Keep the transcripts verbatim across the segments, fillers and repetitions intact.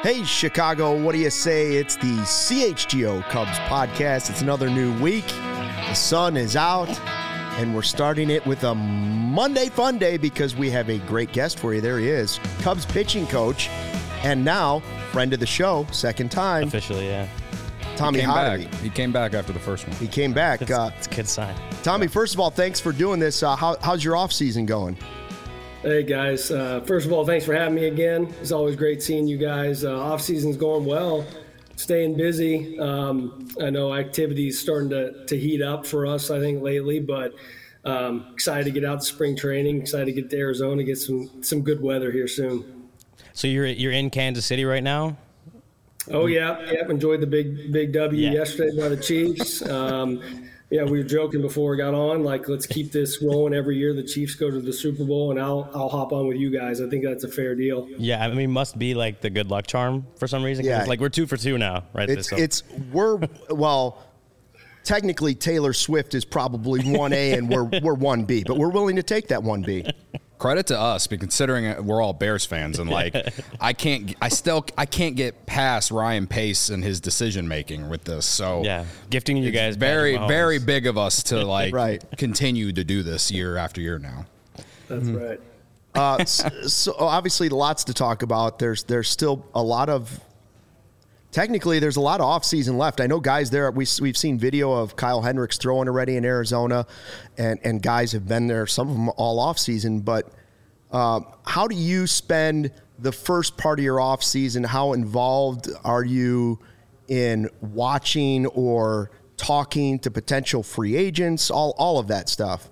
Hey, Chicago, what do you say? It's the C H G O Cubs podcast. It's another new week. The sun is out, and we're starting it with a Monday fun day because we have a great guest for you. There he is, Cubs pitching coach, and now friend of the show, second time. Officially, yeah. Tommy he came Hottovy. back. He came back after the first one. He came back. It's, uh, it's a good sign. Tommy, first of all, thanks for doing this. Uh, how, how's your off season going? Hey guys, uh, first of all, thanks for having me again. It's always great seeing you guys. Uh, off season's going well, staying busy. Um, I know activity's starting to, to heat up for us, I think, lately, but um, excited to get out to spring training, excited to get to Arizona, get some some good weather here soon. So you're you're in Kansas City right now? Oh yeah, yep. Enjoyed the big big W Yeah. yesterday by the Chiefs. Um, Yeah, we were joking before we got on, like, let's keep this rolling every year. The Chiefs go to the Super Bowl, and I'll I'll hop on with you guys. I think that's a fair deal. Yeah, I mean, must be like the good luck charm for some reason. 'Cause Yeah. it's like we're two for two now, right? It's, So- it's we're, well, technically Taylor Swift is probably one A and we're, we're one B, but we're willing to take that one B. Credit to us, because considering we're all Bears fans, and like I can't, I still, I can't get past Ryan Pace and his decision making with this. So yeah, gifting you it's guys very, Patrick Mahomes. very big of us to like Right. continue to do this year after year now. That's right. Uh, so, so obviously lots to talk about. There's there's still a lot of technically there's a lot of off season left. I know guys there. We we've seen video of Kyle Hendricks throwing already in Arizona, and and guys have been there. Some of them all off season. But uh, how do you spend the first part of your off season? How involved are you in watching or talking to potential free agents? All all of that stuff.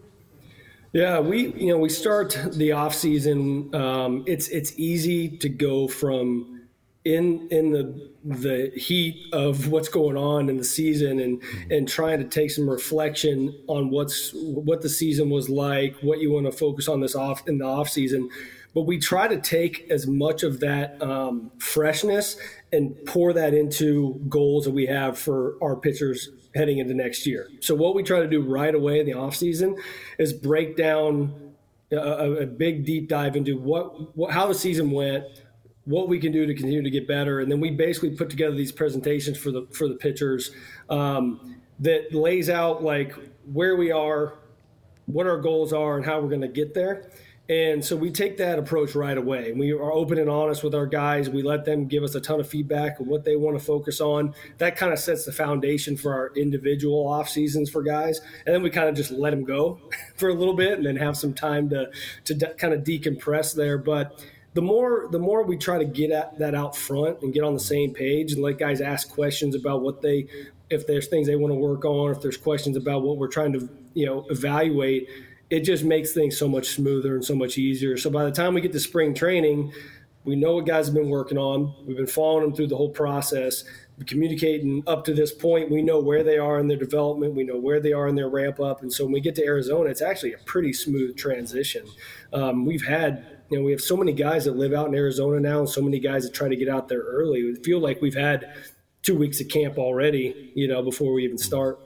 Yeah, we you know we start the off season. Um, it's it's easy to go from in in the the heat of what's going on in the season and and trying to take some reflection on what's what the season was like, what you want to focus on this off in the off season. But we try to take as much of that um, freshness and pour that into goals that we have for our pitchers heading into next year. So what we try to do right away in the off season is break down a, a big deep dive into what, what how the season went, what we can do to continue to get better, and then we basically put together these presentations for the for the pitchers um, that lays out like where we are, what our goals are, and how we're going to get there. And so we take that approach right away. We are open and honest with our guys. We let them give us a ton of feedback on what they want to focus on. That kind of sets the foundation for our individual off seasons for guys. And then we kind of just let them go for a little bit and then have some time to to de- kind of decompress there. But the more the more we try to get at that out front and get on the same page and let guys ask questions about what they, if there's things they want to work on, if there's questions about what we're trying to, you know, evaluate, it just makes things so much smoother and so much easier. So by the time we get to spring training, we know what guys have been working on. We've been following them through the whole process. We're communicating up to this point. We know where they are in their development. We know where they are in their ramp up. And so when we get to Arizona, it's actually a pretty smooth transition. Um, we've had, you know, we have so many guys that live out in Arizona now and so many guys that try to get out there early. We feel like we've had two weeks of camp already, you know, before we even start.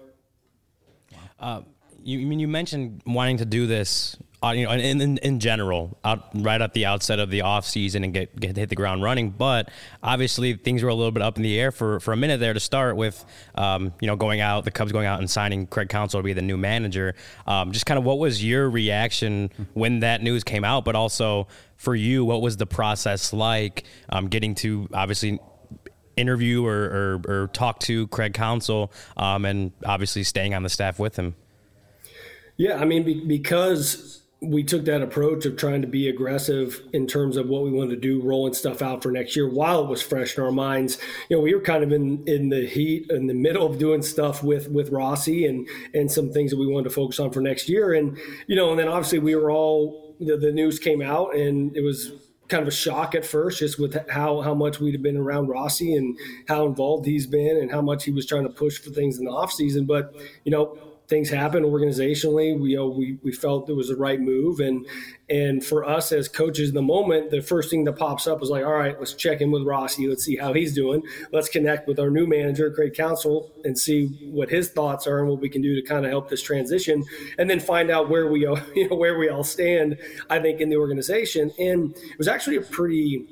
Uh, You I mean you mentioned wanting to do this, uh, you know, in, in in general, out right at the outset of the off season and get, get hit the ground running. But obviously things were a little bit up in the air for, for a minute there to start with, um, you know, going out, the Cubs going out and signing Craig Counsell to be the new manager. Um, just kind of what was your reaction when that news came out? But also for you, what was the process like um, getting to obviously interview or, or, or talk to Craig Counsell um, and obviously staying on the staff with him? Yeah, I mean, be, because we took that approach of trying to be aggressive in terms of what we wanted to do, rolling stuff out for next year while it was fresh in our minds. You know, we were kind of in, in the heat, in the middle of doing stuff with, with Rossi and, and some things that we wanted to focus on for next year. And, you know, and then obviously we were all, the, the news came out and it was kind of a shock at first, just with how, how much we'd have been around Rossi and how involved he's been and how much he was trying to push for things in the off season. But, you know, things happen organizationally. We, you know, we we felt it was the right move, and and for us as coaches in the moment, the first thing that pops up is like, all right, let's check in with Rossi. Let's see how he's doing. Let's connect with our new manager, Craig Counsell, and see what his thoughts are and what we can do to kind of help this transition, and then find out where we you know where we all stand. I think in the organization, and it was actually a pretty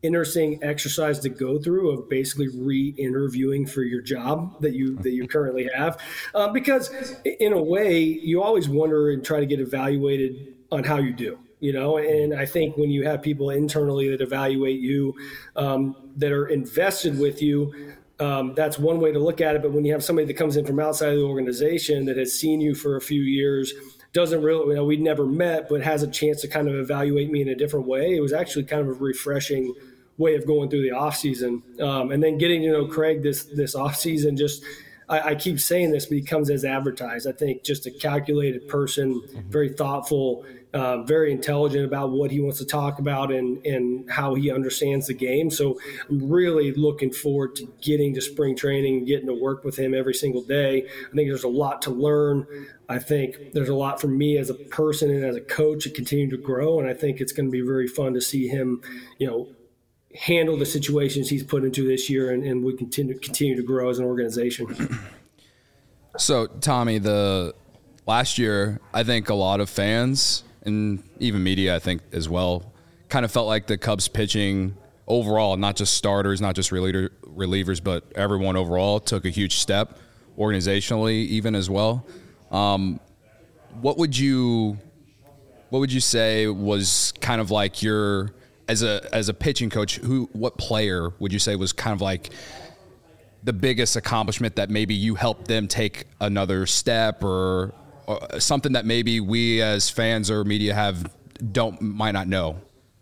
interesting exercise to go through of basically re-interviewing for your job that you that you currently have, uh, because in a way you always wonder and try to get evaluated on how you do. You know, and I think when you have people internally that evaluate you, um, that are invested with you, um, that's one way to look at it. But when you have somebody that comes in from outside of the organization that has seen you for a few years, doesn't really, you know, we'd never met, but has a chance to kind of evaluate me in a different way, it was actually kind of a refreshing way of going through the off season. Um, and then getting to know Craig this this off season, just I, I keep saying this, but he comes as advertised. I think just a calculated person, very thoughtful. Uh, very intelligent about what he wants to talk about and, and how he understands the game. So I'm really looking forward to getting to spring training, getting to work with him every single day. I think there's a lot to learn. I think there's a lot for me as a person and as a coach to continue to grow. And I think it's going to be very fun to see him, you know, handle the situations he's put into this year, and, and we continue continue to grow as an organization. So, Tommy, the last year, I think a lot of fans and even media, I think as well, kind of felt like the Cubs pitching overall, not just starters, not just reliever, relievers, but everyone overall took a huge step organizationally, even as well. Um, what would you, what would you say was kind of like your, as a as a pitching coach, who, what player would you say was kind of like the biggest accomplishment that maybe you helped them take another step, or, or something that maybe we as fans or media have don't might not know?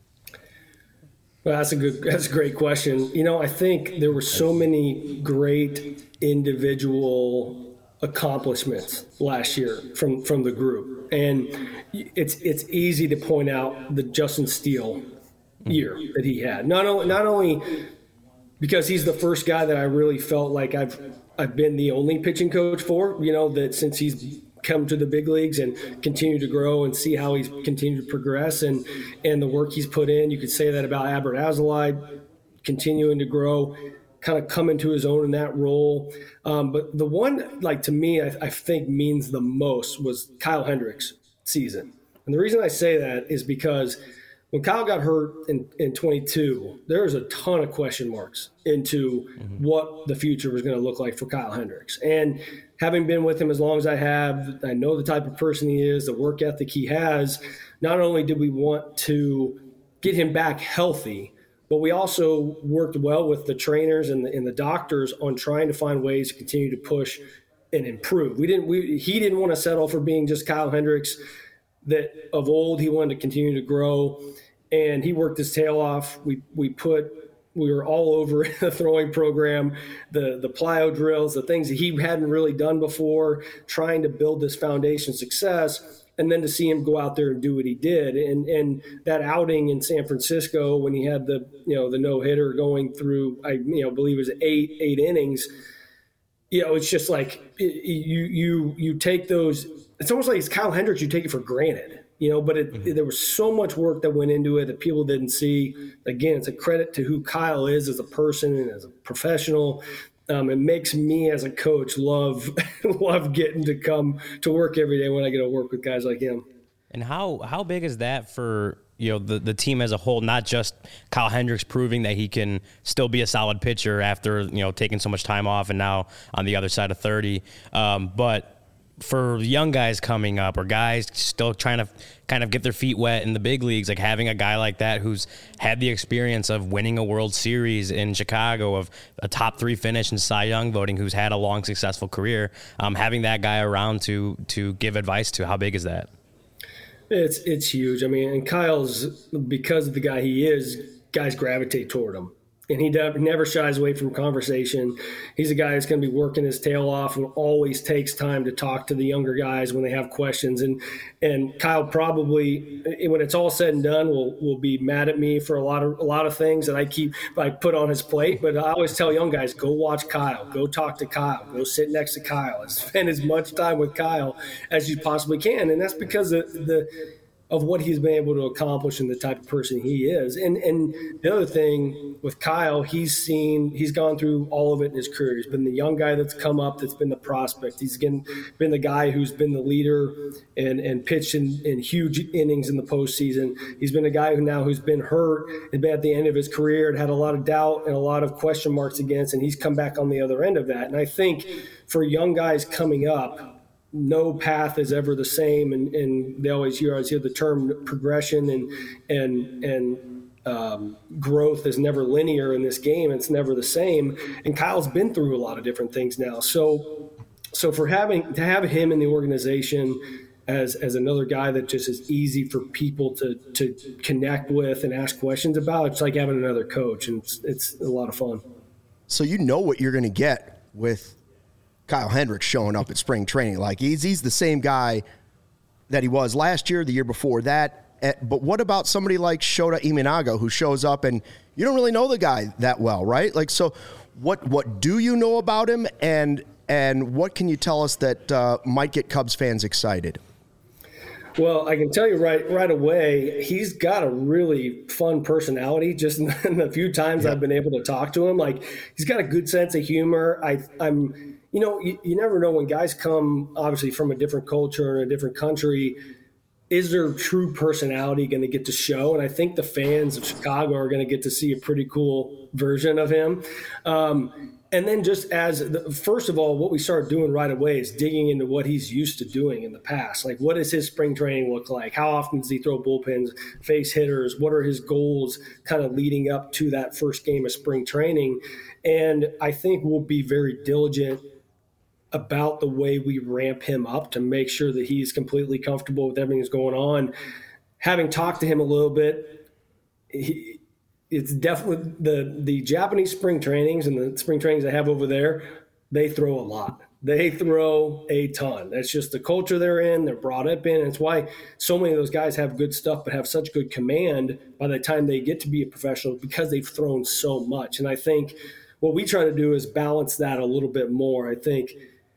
Well, that's a good, that's a great question. You know, I think there were so many great individual accomplishments last year from, from the group. And it's, it's easy to point out the Justin Steele year that he had. Not only, not only because he's the first guy that I really felt like I've, I've been the only pitching coach for, you know, that since he's come to the big leagues and continue to grow and see how he's continued to progress and, and the work he's put in. You could say that about Adbert Alzolay, continuing to grow, kind of come into his own in that role. Um, but the one, like, to me, I, I think means the most was Kyle Hendricks' season. And the reason I say that is because when Kyle got hurt in, in twenty-two, there was a ton of question marks into mm-hmm. what the future was going to look like for Kyle Hendricks. And having been with him as long as I have, I know the type of person he is, the work ethic he has. Not only did we want to get him back healthy, but we also worked well with the trainers and the, and the doctors on trying to find ways to continue to push and improve. We didn't. We, he didn't want to settle for being just Kyle Hendricks that of old. He wanted to continue to grow, and he worked his tail off. We we put. We were all over the throwing program, the the plyo drills, the things that he hadn't really done before, trying to build this foundation success, and then to see him go out there and do what he did. And and that outing in San Francisco when he had the you know the no hitter going through, I you know believe it was eight eight innings. You know, it's just like it, you you you take those. It's almost like it's Kyle Hendricks. You take it for granted. You know, but it, mm-hmm. there was so much work that went into it that people didn't see. Again, it's a credit to who Kyle is as a person and as a professional. Um, it makes me as a coach love love getting to come to work every day when I get to work with guys like him. And how how big is that for you know the the team as a whole? Not just Kyle Hendricks proving that he can still be a solid pitcher after you know taking so much time off and now on the other side of thirty, um, but for young guys coming up or guys still trying to kind of get their feet wet in the big leagues, like having a guy like that who's had the experience of winning a World Series in Chicago, of a top three finish in Cy Young voting, who's had a long, successful career, um, having that guy around to to give advice to, how big is that? It's it's huge. I mean, and Kyle's, because of the guy he is, guys gravitate toward him. And he never shies away from conversation. He's a guy that's going to be working his tail off and always takes time to talk to the younger guys when they have questions. And and Kyle probably, when it's all said and done, will will be mad at me for a lot of a lot of things that I keep I put on his plate. But I always tell young guys, go watch Kyle, go talk to Kyle, go sit next to Kyle, and spend as much time with Kyle as you possibly can. And that's because the the of what he's been able to accomplish and the type of person he is. And and the other thing with Kyle, he's seen, he's gone through all of it in his career. He's been the young guy that's come up, that's been the prospect. He's been, been the guy who's been the leader and, and pitched in, in huge innings in the postseason. He's been a guy who now who's been hurt and been at the end of his career and had a lot of doubt and a lot of question marks against, and he's come back on the other end of that. And I think for young guys coming up, no path is ever the same, and, and they always hear, always hear the term progression and and and um, growth is never linear in this game. It's never the same. And Kyle's been through a lot of different things now. So so for having to have him in the organization as as another guy that just is easy for people to to connect with and ask questions about, it's like having another coach, and it's, it's a lot of fun. So you know what you're going to get with Kyle Hendricks showing up at spring training. Like he's he's the same guy that he was last year, the year before that. But what about somebody like Shota Imanaga who shows up and you don't really know the guy that well, right? Like, so what what do you know about him, and and what can you tell us that uh, might get Cubs fans excited? Well, I can tell you right right away, he's got a really fun personality. Just in the few times yeah. I've been able to talk to him, like he's got a good sense of humor. I, I'm, you know, you, you never know when guys come, obviously from a different culture and a different country. Is their true personality going to get to show? And I think the fans of Chicago are going to get to see a pretty cool version of him. Um, And then just as the, first of all, what we started doing right away is digging into what he's used to doing in the past. Like, what does his spring training look like? How often does he throw bullpens, face hitters? What are his goals kind of leading up to that first game of spring training? And I think we'll be very diligent about the way we ramp him up to make sure that he's completely comfortable with everything that's going on. Having talked to him a little bit, he, it's definitely the, the Japanese spring trainings and the spring trainings they have over there, they throw a lot. They throw a ton. That's just the culture they're in. They're brought up in. And it's why so many of those guys have good stuff but have such good command by the time they get to be a professional, because they've thrown so much. And I think what we try to do is balance that a little bit more. I think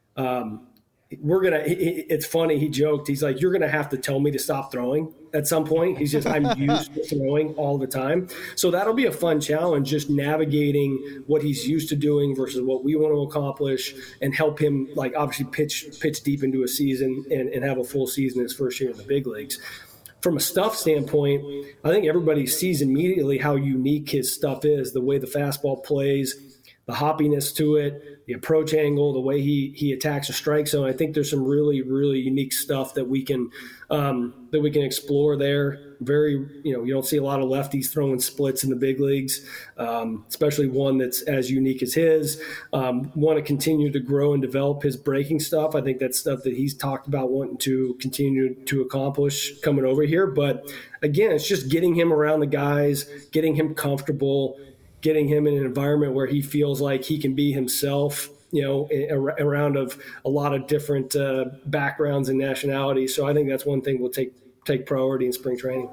um, we're going to – it's funny. He joked. He's like, you're going to have to tell me to stop throwing at some point. He's just, I'm used to throwing all the time. So that'll be a fun challenge, just navigating what he's used to doing versus what we want to accomplish, and help him, like, obviously pitch pitch deep into a season and, and have a full season his first year in the big leagues. From a stuff standpoint, I think everybody sees immediately how unique his stuff is, the way the fastball plays, the hoppiness to it, the approach angle, the way he he attacks a strike zone. I think there's some really, really unique stuff that we can um, that we can explore there. Very, you know, you don't see a lot of lefties throwing splits in the big leagues, um, especially one that's as unique as his. Um, want to continue to grow and develop his breaking stuff. I think that's stuff that he's talked about wanting to continue to accomplish coming over here. But again, it's just getting him around the guys, getting him comfortable, getting him in an environment where he feels like he can be himself, you know, around of a lot of different uh, backgrounds and nationalities. So I think that's one thing we'll take take priority in spring training.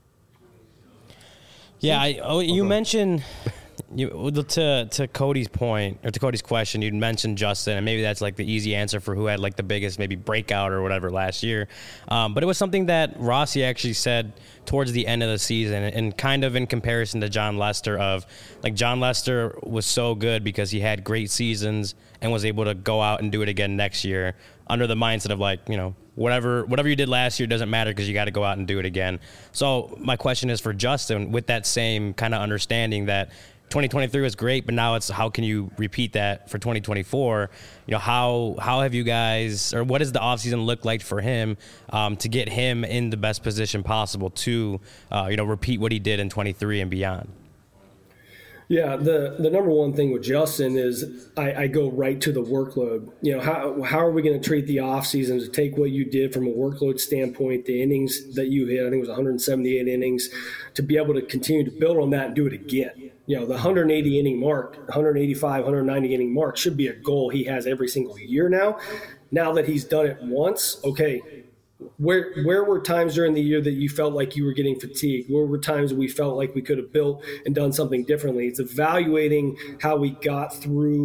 Yeah, I, oh, you mentioned you, to to Cody's point, or to Cody's question, you'd mentioned Justin, and maybe that's like the easy answer for who had like the biggest maybe breakout or whatever last year. Um, but it was something that Rossi actually said towards the end of the season, and kind of in comparison to John Lester, of like John Lester was so good because he had great seasons and was able to go out and do it again next year, under the mindset of like, you know, whatever whatever you did last year doesn't matter because you got to go out and do it again. So my question is for Justin, with that same kind of understanding that twenty twenty-three was great, but now it's how can you repeat that for twenty twenty-four? You know, how how have you guys, or what does the offseason look like for him um, to get him in the best position possible to, uh, you know, repeat what he did in twenty-three and beyond? Yeah, the, the number one thing with Justin is I, I go right to the workload. You know, how how are we going to treat the offseason to take what you did from a workload standpoint, the innings that you hit, I think it was one hundred seventy-eight innings, to be able to continue to build on that and do it again. You know, the one hundred eighty inning mark, one eighty-five, one ninety inning mark should be a goal he has every single year now. Now that he's done it once, okay, Where where were times during the year that you felt like you were getting fatigued? Where were times we felt like we could have built and done something differently? It's evaluating how we got through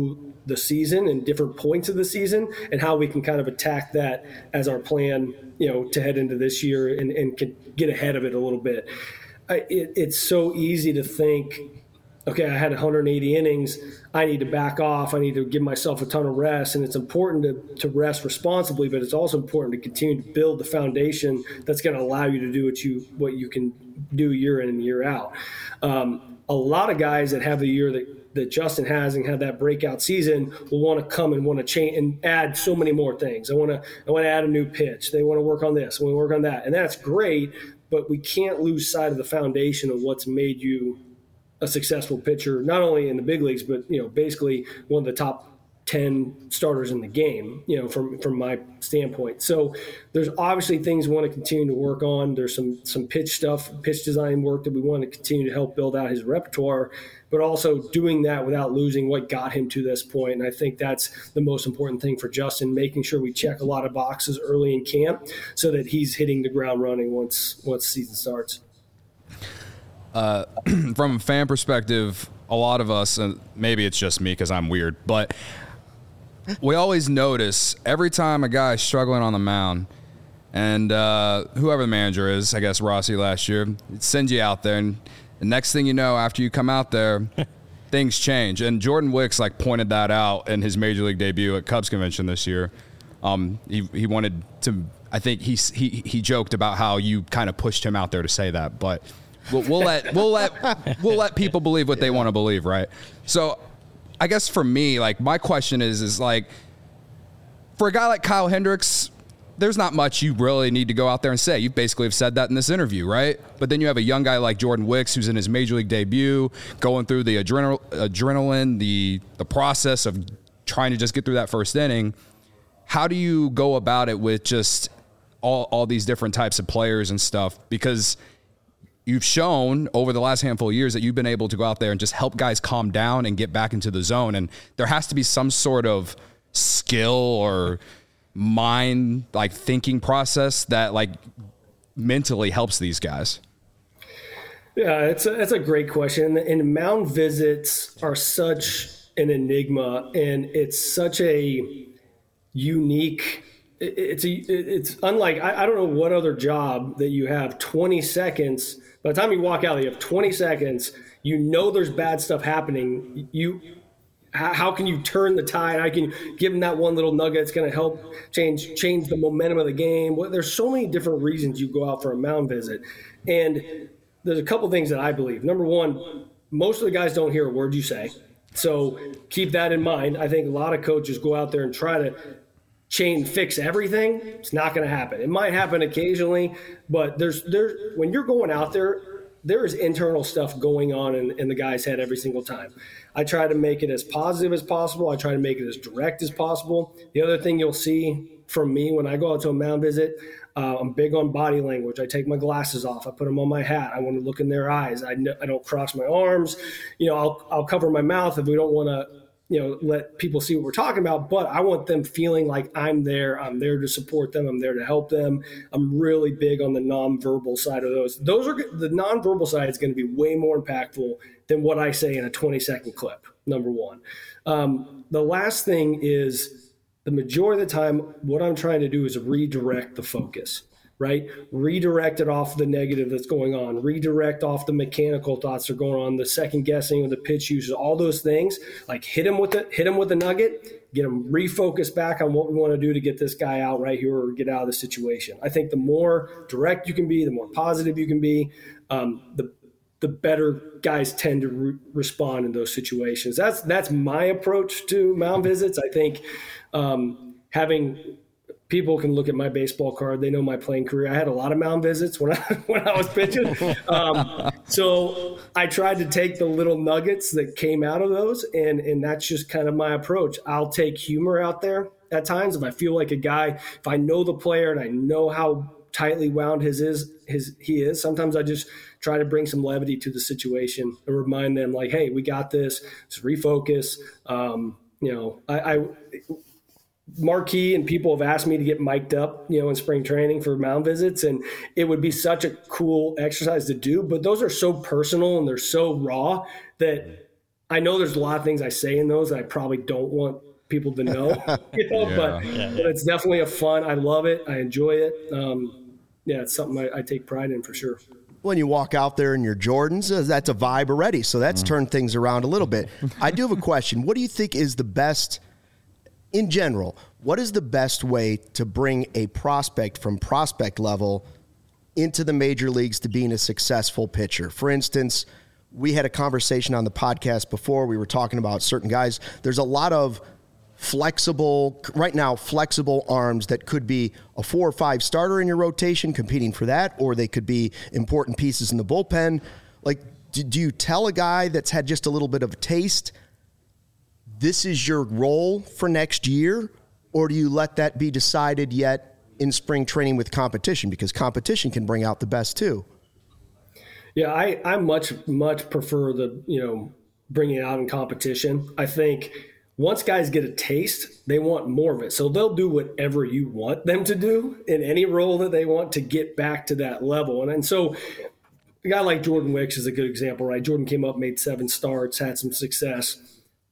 the season and different points of the season, and how we can kind of attack that as our plan, you know, to head into this year and, and can get ahead of it a little bit. I, it, it's so easy to think, okay, I had one hundred eighty innings. I need to back off. I need to give myself a ton of rest. And it's important to, to rest responsibly, but it's also important to continue to build the foundation that's going to allow you to do what you what you can do year in and year out. Um, a lot of guys that have the year that, that Justin has and had that breakout season will want to come and want to change and add so many more things. I want to I want to add a new pitch. They want to work on this. I want to work on that. And that's great, but we can't lose sight of the foundation of what's made you a successful pitcher, not only in the big leagues, but, you know, basically one of the top ten starters in the game, you know, from, from my standpoint. So there's obviously things we want to continue to work on. There's some, some pitch stuff, pitch design work that we want to continue to help build out his repertoire, but also doing that without losing what got him to this point. And I think that's the most important thing for Justin, making sure we check a lot of boxes early in camp so that he's hitting the ground running once, once season starts. Uh, from a fan perspective, a lot of us, and maybe it's just me because I'm weird, but we always notice every time a guy is struggling on the mound, and uh, whoever the manager is, I guess Rossi last year, sends you out there, and the next thing you know, after you come out there, things change. And Jordan Wicks like pointed that out in his major league debut at Cubs convention this year. Um, he he wanted to, I think he he he joked about how you kind of pushed him out there to say that, but. We'll, we'll let we'll let we'll let people believe what they want to believe, right? So, I guess for me, like my question is, is like, for a guy like Kyle Hendricks, there's not much you really need to go out there and say. You basically have said that in this interview, right? But then you have a young guy like Jordan Wicks, who's in his major league debut, going through the adrenal, adrenaline, the the process of trying to just get through that first inning. How do you go about it with just all all these different types of players and stuff? Because you've shown over the last handful of years that you've been able to go out there and just help guys calm down and get back into the zone. And there has to be some sort of skill or mind, like thinking process that like mentally helps these guys. Yeah, it's a, that's a great question. And mound visits are such an enigma, and it's such a unique It's a, it's unlike, I, I don't know what other job that you have twenty seconds. By the time you walk out, you have twenty seconds. You know there's bad stuff happening. You, how can you turn the tide? How can you give them that one little nugget that's going to help change change the momentum of the game? Well, there's so many different reasons you go out for a mound visit. And there's a couple things that I believe. Number one, most of the guys don't hear a word you say. So keep that in mind. I think a lot of coaches go out there and try to chain fix everything. It's not going to happen. It might happen occasionally, but there's there's when you're going out there, there is internal stuff going on in, in the guy's head every single time. I try to make it as positive as possible. I try to make it as direct as possible. The other thing you'll see from me when I go out to a mound visit, uh, I'm big on body language. I take my glasses off. I put them on my hat. I want to look in their eyes. I, I don't cross my arms. You know, I'll I'll cover my mouth if we don't want to, you know, let people see what we're talking about, but I want them feeling like I'm there. I'm there to support them. I'm there to help them. I'm really big on the nonverbal side of those. Those are the nonverbal side is going to be way more impactful than what I say in a twenty second clip. Number one. Um, the last thing is the majority of the time, what I'm trying to do is redirect the focus. Right? Redirect it off the negative that's going on. Redirect off the mechanical thoughts that are going on, the second guessing of the pitch usage, all those things. Like hit him with the hit him with the nugget, get him refocused back on what we want to do to get this guy out right here or get out of the situation. I think the more direct you can be, the more positive you can be, um, the the better guys tend to re- respond in those situations. That's that's my approach to mound visits. I think um, having people can look at my baseball card. They know my playing career. I had a lot of mound visits when I when I was pitching. Um, so I tried to take the little nuggets that came out of those, and and that's just kind of my approach. I'll take humor out there at times if I feel like a guy. If I know the player and I know how tightly wound his is his he is. Sometimes I just try to bring some levity to the situation and remind them like, hey, we got this. Just refocus. Um, you know, I. I Marquee and people have asked me to get mic'd up, you know, in spring training for mound visits, and it would be such a cool exercise to do. But those are so personal and they're so raw that I know there's a lot of things I say in those that I probably don't want people to know, you know, Yeah. but, Yeah, yeah. but it's definitely a fun. I love it. I enjoy it. Um, yeah, it's something I, I take pride in for sure. When you walk out there in your Jordans, uh, that's a vibe already. So that's turned things around a little bit. I do have a question. What do you think is the best, in general, what is the best way to bring a prospect from prospect level into the major leagues to being a successful pitcher? For instance, we had a conversation on the podcast before. We were talking about certain guys. There's a lot of flexible, right now, flexible arms that could be a four or five starter in your rotation competing for that, or they could be important pieces in the bullpen. Like, do, do you tell a guy that's had just a little bit of a taste, this is your role for next year, or do you let that be decided yet in spring training with competition? Because competition can bring out the best too. Yeah, I, I much, much prefer the, you know, bringing it out in competition. I think once guys get a taste, they want more of it. So they'll do whatever you want them to do in any role that they want to get back to that level. And, and so a guy like Jordan Wicks is a good example, right? Jordan came up, made seven starts, had some success.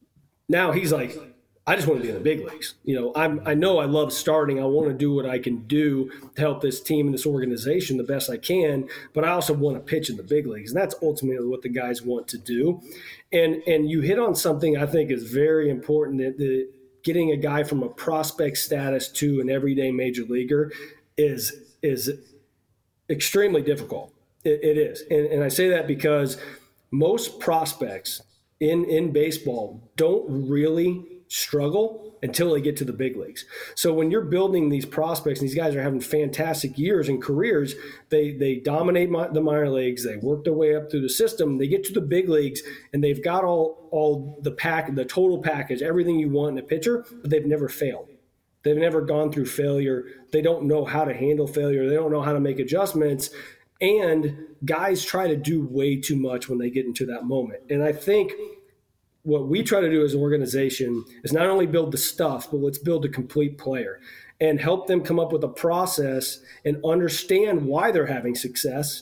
Now he's like, I just want to be in the big leagues. You know, I'm, I know I love starting. I want to do what I can do to help this team and this organization the best I can, but I also want to pitch in the big leagues. And that's ultimately what the guys want to do. And and you hit on something I think is very important, that the, getting a guy from a prospect status to an everyday major leaguer is, is extremely difficult. It, it is. And, and I say that because most prospects in, in baseball don't really struggle until they get to the big leagues. So when you're building these prospects, and these guys are having fantastic years and careers, they they dominate my, the minor leagues, they work their way up through the system, they get to the big leagues, and they've got all all the pack, the total package, everything you want in a pitcher, but they've never failed. They've never gone through failure. They don't know how to handle failure. They don't know how to make adjustments. And guys try to do way too much when they get into that moment. And I think what we try to do as an organization is not only build the stuff, but let's build a complete player and help them come up with a process and understand why they're having success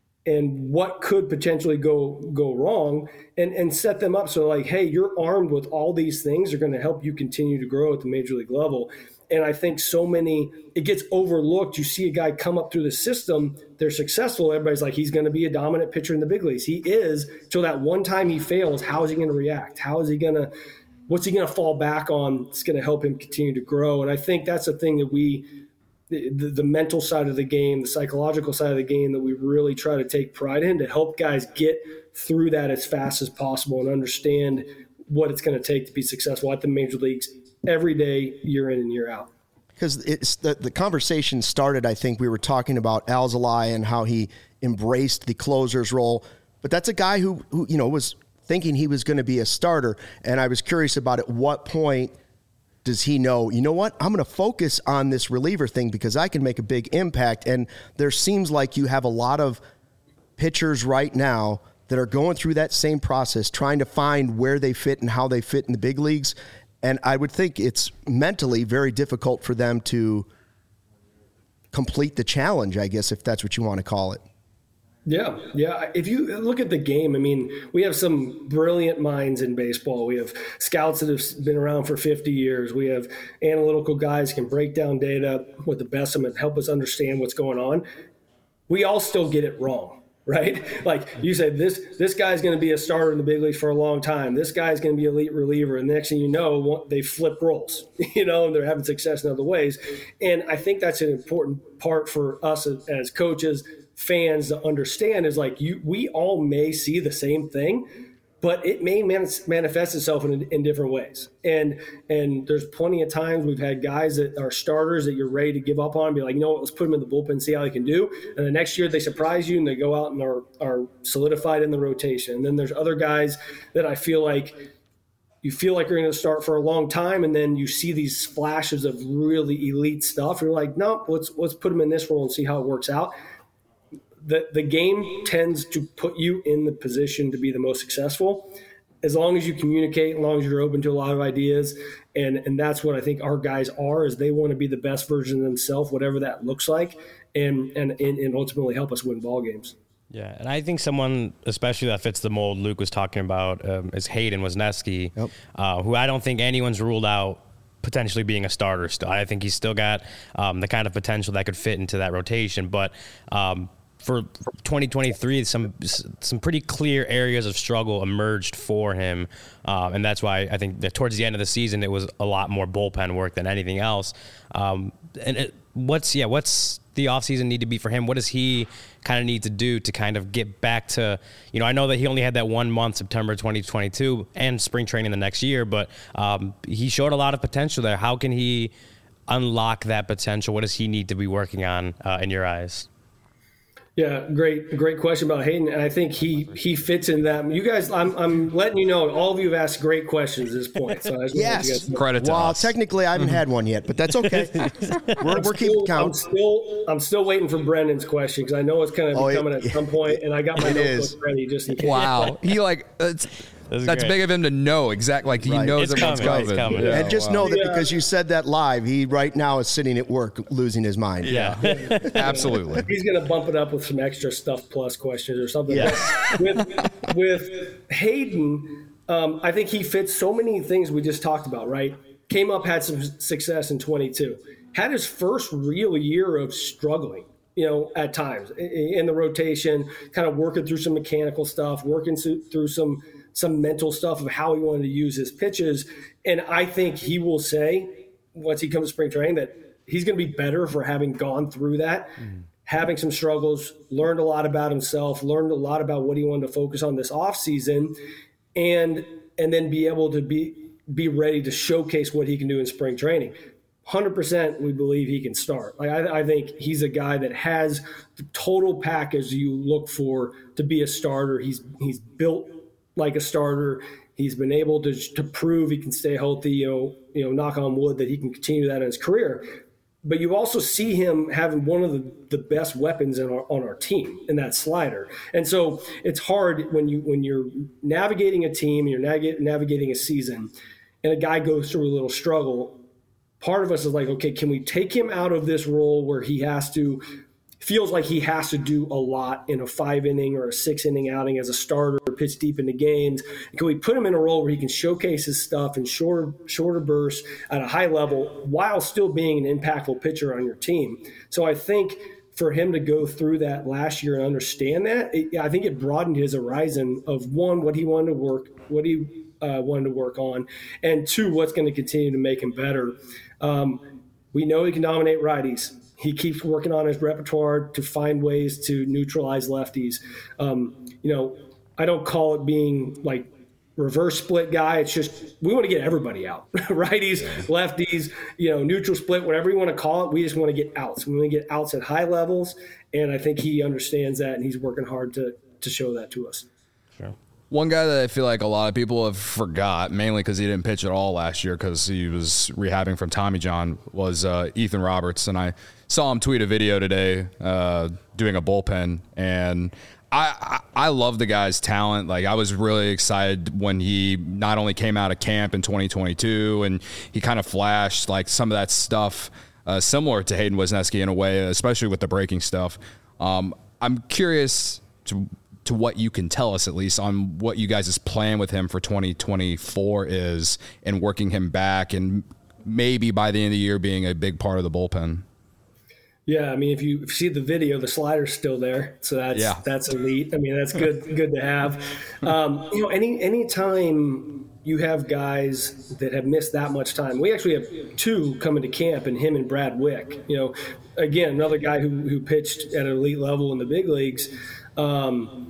and what could potentially go go wrong, and, and set them up so like, hey, you're armed with all these things that are going to help you continue to grow at the major league level. And I think so many, it gets overlooked. You see a guy come up through the system, they're successful. Everybody's like, he's going to be a dominant pitcher in the big leagues. He is. So that one time he fails, how is he going to react? How is he going to, what's he going to fall back on? It's going to help him continue to grow. And I think that's the thing that we, the, the mental side of the game, the psychological side of the game, that we really try to take pride in, to help guys get through that as fast as possible and understand what it's going to take to be successful at the major leagues every day, year in and year out. Because it's the, the conversation started, I think we were talking about Alzolay and how he embraced the closer's role. But that's a guy who, who you know, was thinking he was going to be a starter. And I was curious about at what point does he know, you know what, I'm going to focus on this reliever thing because I can make a big impact. And there seems like you have a lot of pitchers right now that are going through that same process, trying to find where they fit and how they fit in the big leagues. And I would think it's mentally very difficult for them to complete the challenge, I guess, if that's what you want to call it. Yeah, yeah. If you look at the game, I mean, we have some brilliant minds in baseball. We have scouts that have been around for fifty years. We have analytical guys who can break down data with the best of them and help us understand what's going on. We all still get it wrong. Right? Like you said, this this guy's going to be a starter in the big leagues for a long time. This guy's going to be an elite reliever. And the next thing you know, they flip roles, you know, and they're having success in other ways. And I think that's an important part for us as, as coaches, fans to understand is like you, we all may see the same thing, but it may manifest itself in, in different ways. And and there's plenty of times we've had guys that are starters that you're ready to give up on, be like, you know what, let's put them in the bullpen and see how they can do. And the next year they surprise you and they go out and are, are solidified in the rotation. And then there's other guys that I feel like you feel like you're going to start for a long time, and then you see these flashes of really elite stuff. You're like, no, let's let's put them in this role and see how it works out. The, the game tends to put you in the position to be the most successful as long as you communicate, as long as you're open to a lot of ideas. And, and that's what I think our guys are, is they want to be the best version of themselves, whatever that looks like, and, and, and ultimately help us win ball games. Yeah, and I think someone, especially that fits the mold Luke was talking about, um, is Hayden Wesneski, yep. uh, who I don't think anyone's ruled out potentially being a starter still. I think he's still got um, the kind of potential that could fit into that rotation. But um, for twenty twenty-three, some some pretty clear areas of struggle emerged for him. Um, and that's why I think that towards the end of the season, it was a lot more bullpen work than anything else. Um, and it, what's, yeah, what's the offseason need to be for him? What does he kind of need to do to kind of get back to, you know, I know that he only had that one month, September twenty twenty-two, and spring training the next year, but um, he showed a lot of potential there. How can he unlock that potential? What does he need to be working on uh, in your eyes? Yeah, great, great question about Hayden, and I think he he fits in that. You guys, I'm I'm letting you know, all of you have asked great questions at this point. So I just yes, credit to well, us. technically, I haven't had one yet, but that's okay. we're we're keeping count. I'm still I'm still waiting for Brendan's question because I know it's going to be oh, coming it, at some point, and I got my notebook ready just in case. Wow, he like. It's, That's, That's big of him to know exactly. Like he right. knows it's everyone's coming. coming. It's coming. Yeah, and just wow. know that yeah. because you said that live, he right now is sitting at work losing his mind. Yeah, absolutely. He's going to bump it up with some extra stuff plus questions or something. Yeah. with with Hayden, um, I think he fits so many things we just talked about. Right, came up, had some success in twenty-two, had his first real year of struggling. You know, at times in the rotation, kind of working through some mechanical stuff, working through some. some mental stuff of how he wanted to use his pitches. And I think he will say, once he comes to spring training, that he's going to be better for having gone through that, mm. having some struggles, learned a lot about himself, learned a lot about what he wanted to focus on this offseason, and and then be able to be be ready to showcase what he can do in spring training. one hundred percent we believe he can start. Like I, I think he's a guy that has the total package you look for to be a starter. He's he's built like a starter. He's been able to to prove he can stay healthy, you know, you know, knock on wood that he can continue that in his career. But you also see him having one of the, the best weapons in our, on our team in that slider. And so it's hard when you when you're navigating a team, you're navig- navigating a season, and a guy goes through a little struggle. Part of us is like, okay, can we take him out of this role where he has to feels like he has to do a lot in a five inning or a six inning outing as a starter, pitch deep into games? Can we put him in a role where he can showcase his stuff in shorter, shorter bursts at a high level while still being an impactful pitcher on your team? So I think for him to go through that last year and understand that, it, I think it broadened his horizon of one, what he wanted to work, what he uh, wanted to work on, and two, what's going to continue to make him better. Um, we know he can dominate righties. He keeps working on his repertoire to find ways to neutralize lefties. Um, you know, I don't call it being like reverse split guy. It's just we want to get everybody out. Righties, lefties, you know, neutral split, whatever you want to call it. We just want to get outs. We want to get outs at high levels, and I think he understands that, and he's working hard to to show that to us. Sure. One guy that I feel like a lot of people have forgot, mainly because he didn't pitch at all last year because he was rehabbing from Tommy John, was uh, Ethan Roberts. And I saw him tweet a video today uh, doing a bullpen, and I, I I love the guy's talent. Like I was really excited when he not only came out of camp in twenty twenty-two and he kind of flashed like some of that stuff uh, similar to Hayden Wesneski in a way, especially with the breaking stuff. Um, I'm curious to to what you can tell us at least on what you guys' plan with him for twenty twenty-four is and working him back and maybe by the end of the year being a big part of the bullpen. Yeah, I mean, if you see the video, the slider's still there, so that's yeah. that's elite. I mean, that's good good to have. Um, you know, any any time you have guys that have missed that much time, we actually have two coming to camp, and him and Brad Wick. You know, again, another guy who who pitched at an elite level in the big leagues. Um,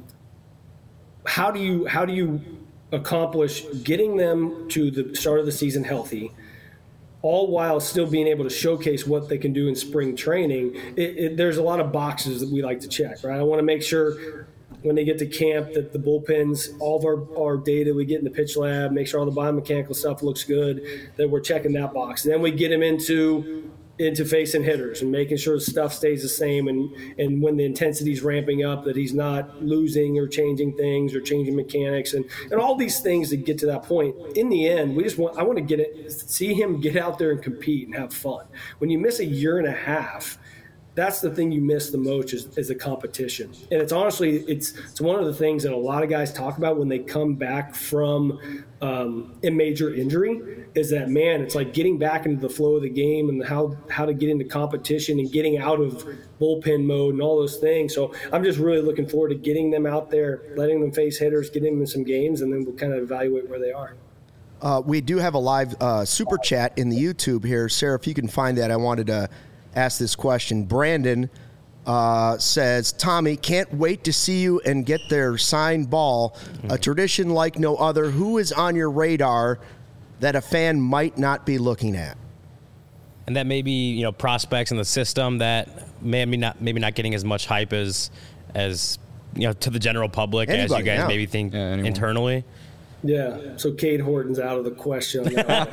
how do you how do you accomplish getting them to the start of the season healthy, all while still being able to showcase what they can do in spring training? It, it, there's a lot of boxes that we like to check, right? I want to make sure when they get to camp that the bullpens, all of our, our data we get in the pitch lab, make sure all the biomechanical stuff looks good, that we're checking that box. And then we get them into into facing hitters and making sure the stuff stays the same, and and when the intensity's ramping up, that he's not losing or changing things or changing mechanics and, and all these things that get to that point. In the end, we just want I want to get it see him get out there and compete and have fun. When you miss a year and a half, that's the thing you miss the most is, is the competition. And it's honestly, it's it's one of the things that a lot of guys talk about when they come back from um, a major injury is that, man, it's like getting back into the flow of the game and how, how to get into competition and getting out of bullpen mode and all those things. So I'm just really looking forward to getting them out there, letting them face hitters, getting them in some games, and then we'll kind of evaluate where they are. Uh, we do have a live uh, super chat in the YouTube here. Sarah, if you can find that, I wanted to ask this question. Brandon uh, says, Tommy, can't wait to see you and get their signed ball. Mm-hmm. A tradition like no other. Who is on your radar that a fan might not be looking at? And that may be, you know, prospects in the system that maybe not maybe not getting as much hype as, as you know, to the general public Anybody, as you guys yeah. maybe think yeah, internally. Yeah, so Cade Horton's out of the question.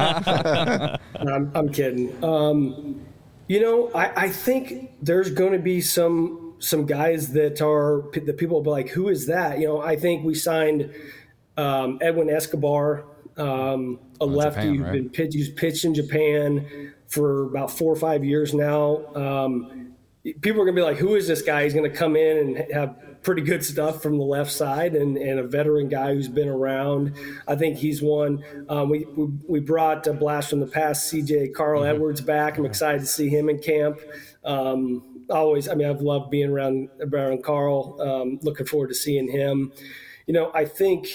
I'm, I'm kidding. Um, you know, I, I think there's going to be some some guys that are the people will be like, who is that? You know, I think we signed um, Edwin Escobar, um, a oh, lefty Japan, who's right? been pitched, who's pitched in Japan for about four or five years now. Um, people are going to be like, who is this guy? He's going to come in and have pretty good stuff from the left side, and, and a veteran guy who's been around. I think he's one. Um, we, we we brought a blast from the past, C J Carl mm-hmm. Edwards back. I'm excited to see him in camp. Um, always, I mean, I've loved being around around Carl. Um, looking forward to seeing him. You know, I think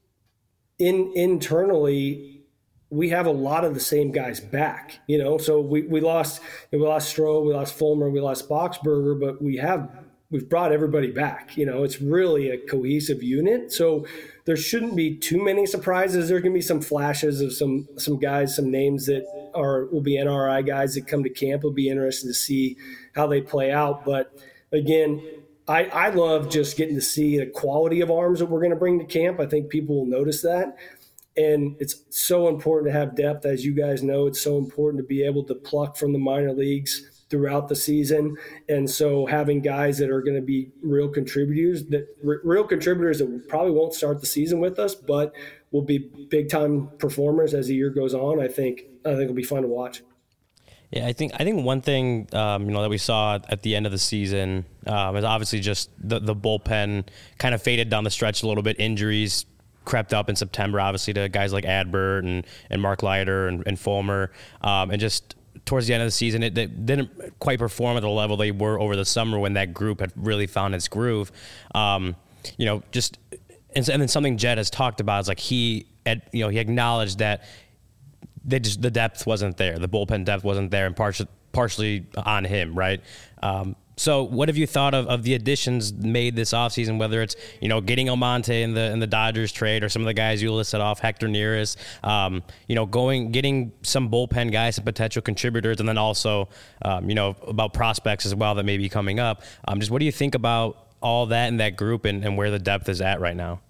in internally we have a lot of the same guys back. You know, so we we lost we lost Stroh, we lost Fulmer, we lost Boxberger, but we have. We've brought everybody back. You know, it's really a cohesive unit. So there shouldn't be too many surprises. There can be some flashes of some some guys, some names that are will be N R I guys that come to camp. Will be interested to see how they play out. But again, I, I love just getting to see the quality of arms that we're going to bring to camp. I think people will notice that. And it's so important to have depth. As you guys know, it's so important to be able to pluck from the minor leagues throughout the season. And so having guys that are going to be real contributors, that r- real contributors that probably won't start the season with us, but will be big time performers as the year goes on, I think, I think it'll be fun to watch. Yeah, I think I think one thing um, you know that we saw at the end of the season um, is obviously just the, the bullpen kind of faded down the stretch a little bit. Injuries crept up in September, obviously, to guys like Adbert and, and Mark Leiter and, and Fulmer, um, and just towards the end of the season, it, it didn't quite perform at the level they were over the summer when that group had really found its groove. Um, you know, just and, and then something Jed has talked about is like he, had, you know, he acknowledged that they just the depth wasn't there, the bullpen depth wasn't there, and partially partially on him, right? Um, So what have you thought of, of the additions made this offseason, whether it's, you know, getting Almonte in the in the Dodgers trade or some of the guys you listed off, Hector Neris, um, you know, going getting some bullpen guys and potential contributors, and then also, um, you know, about prospects as well that may be coming up. Um, just what do you think about all that in that group and, and where the depth is at right now?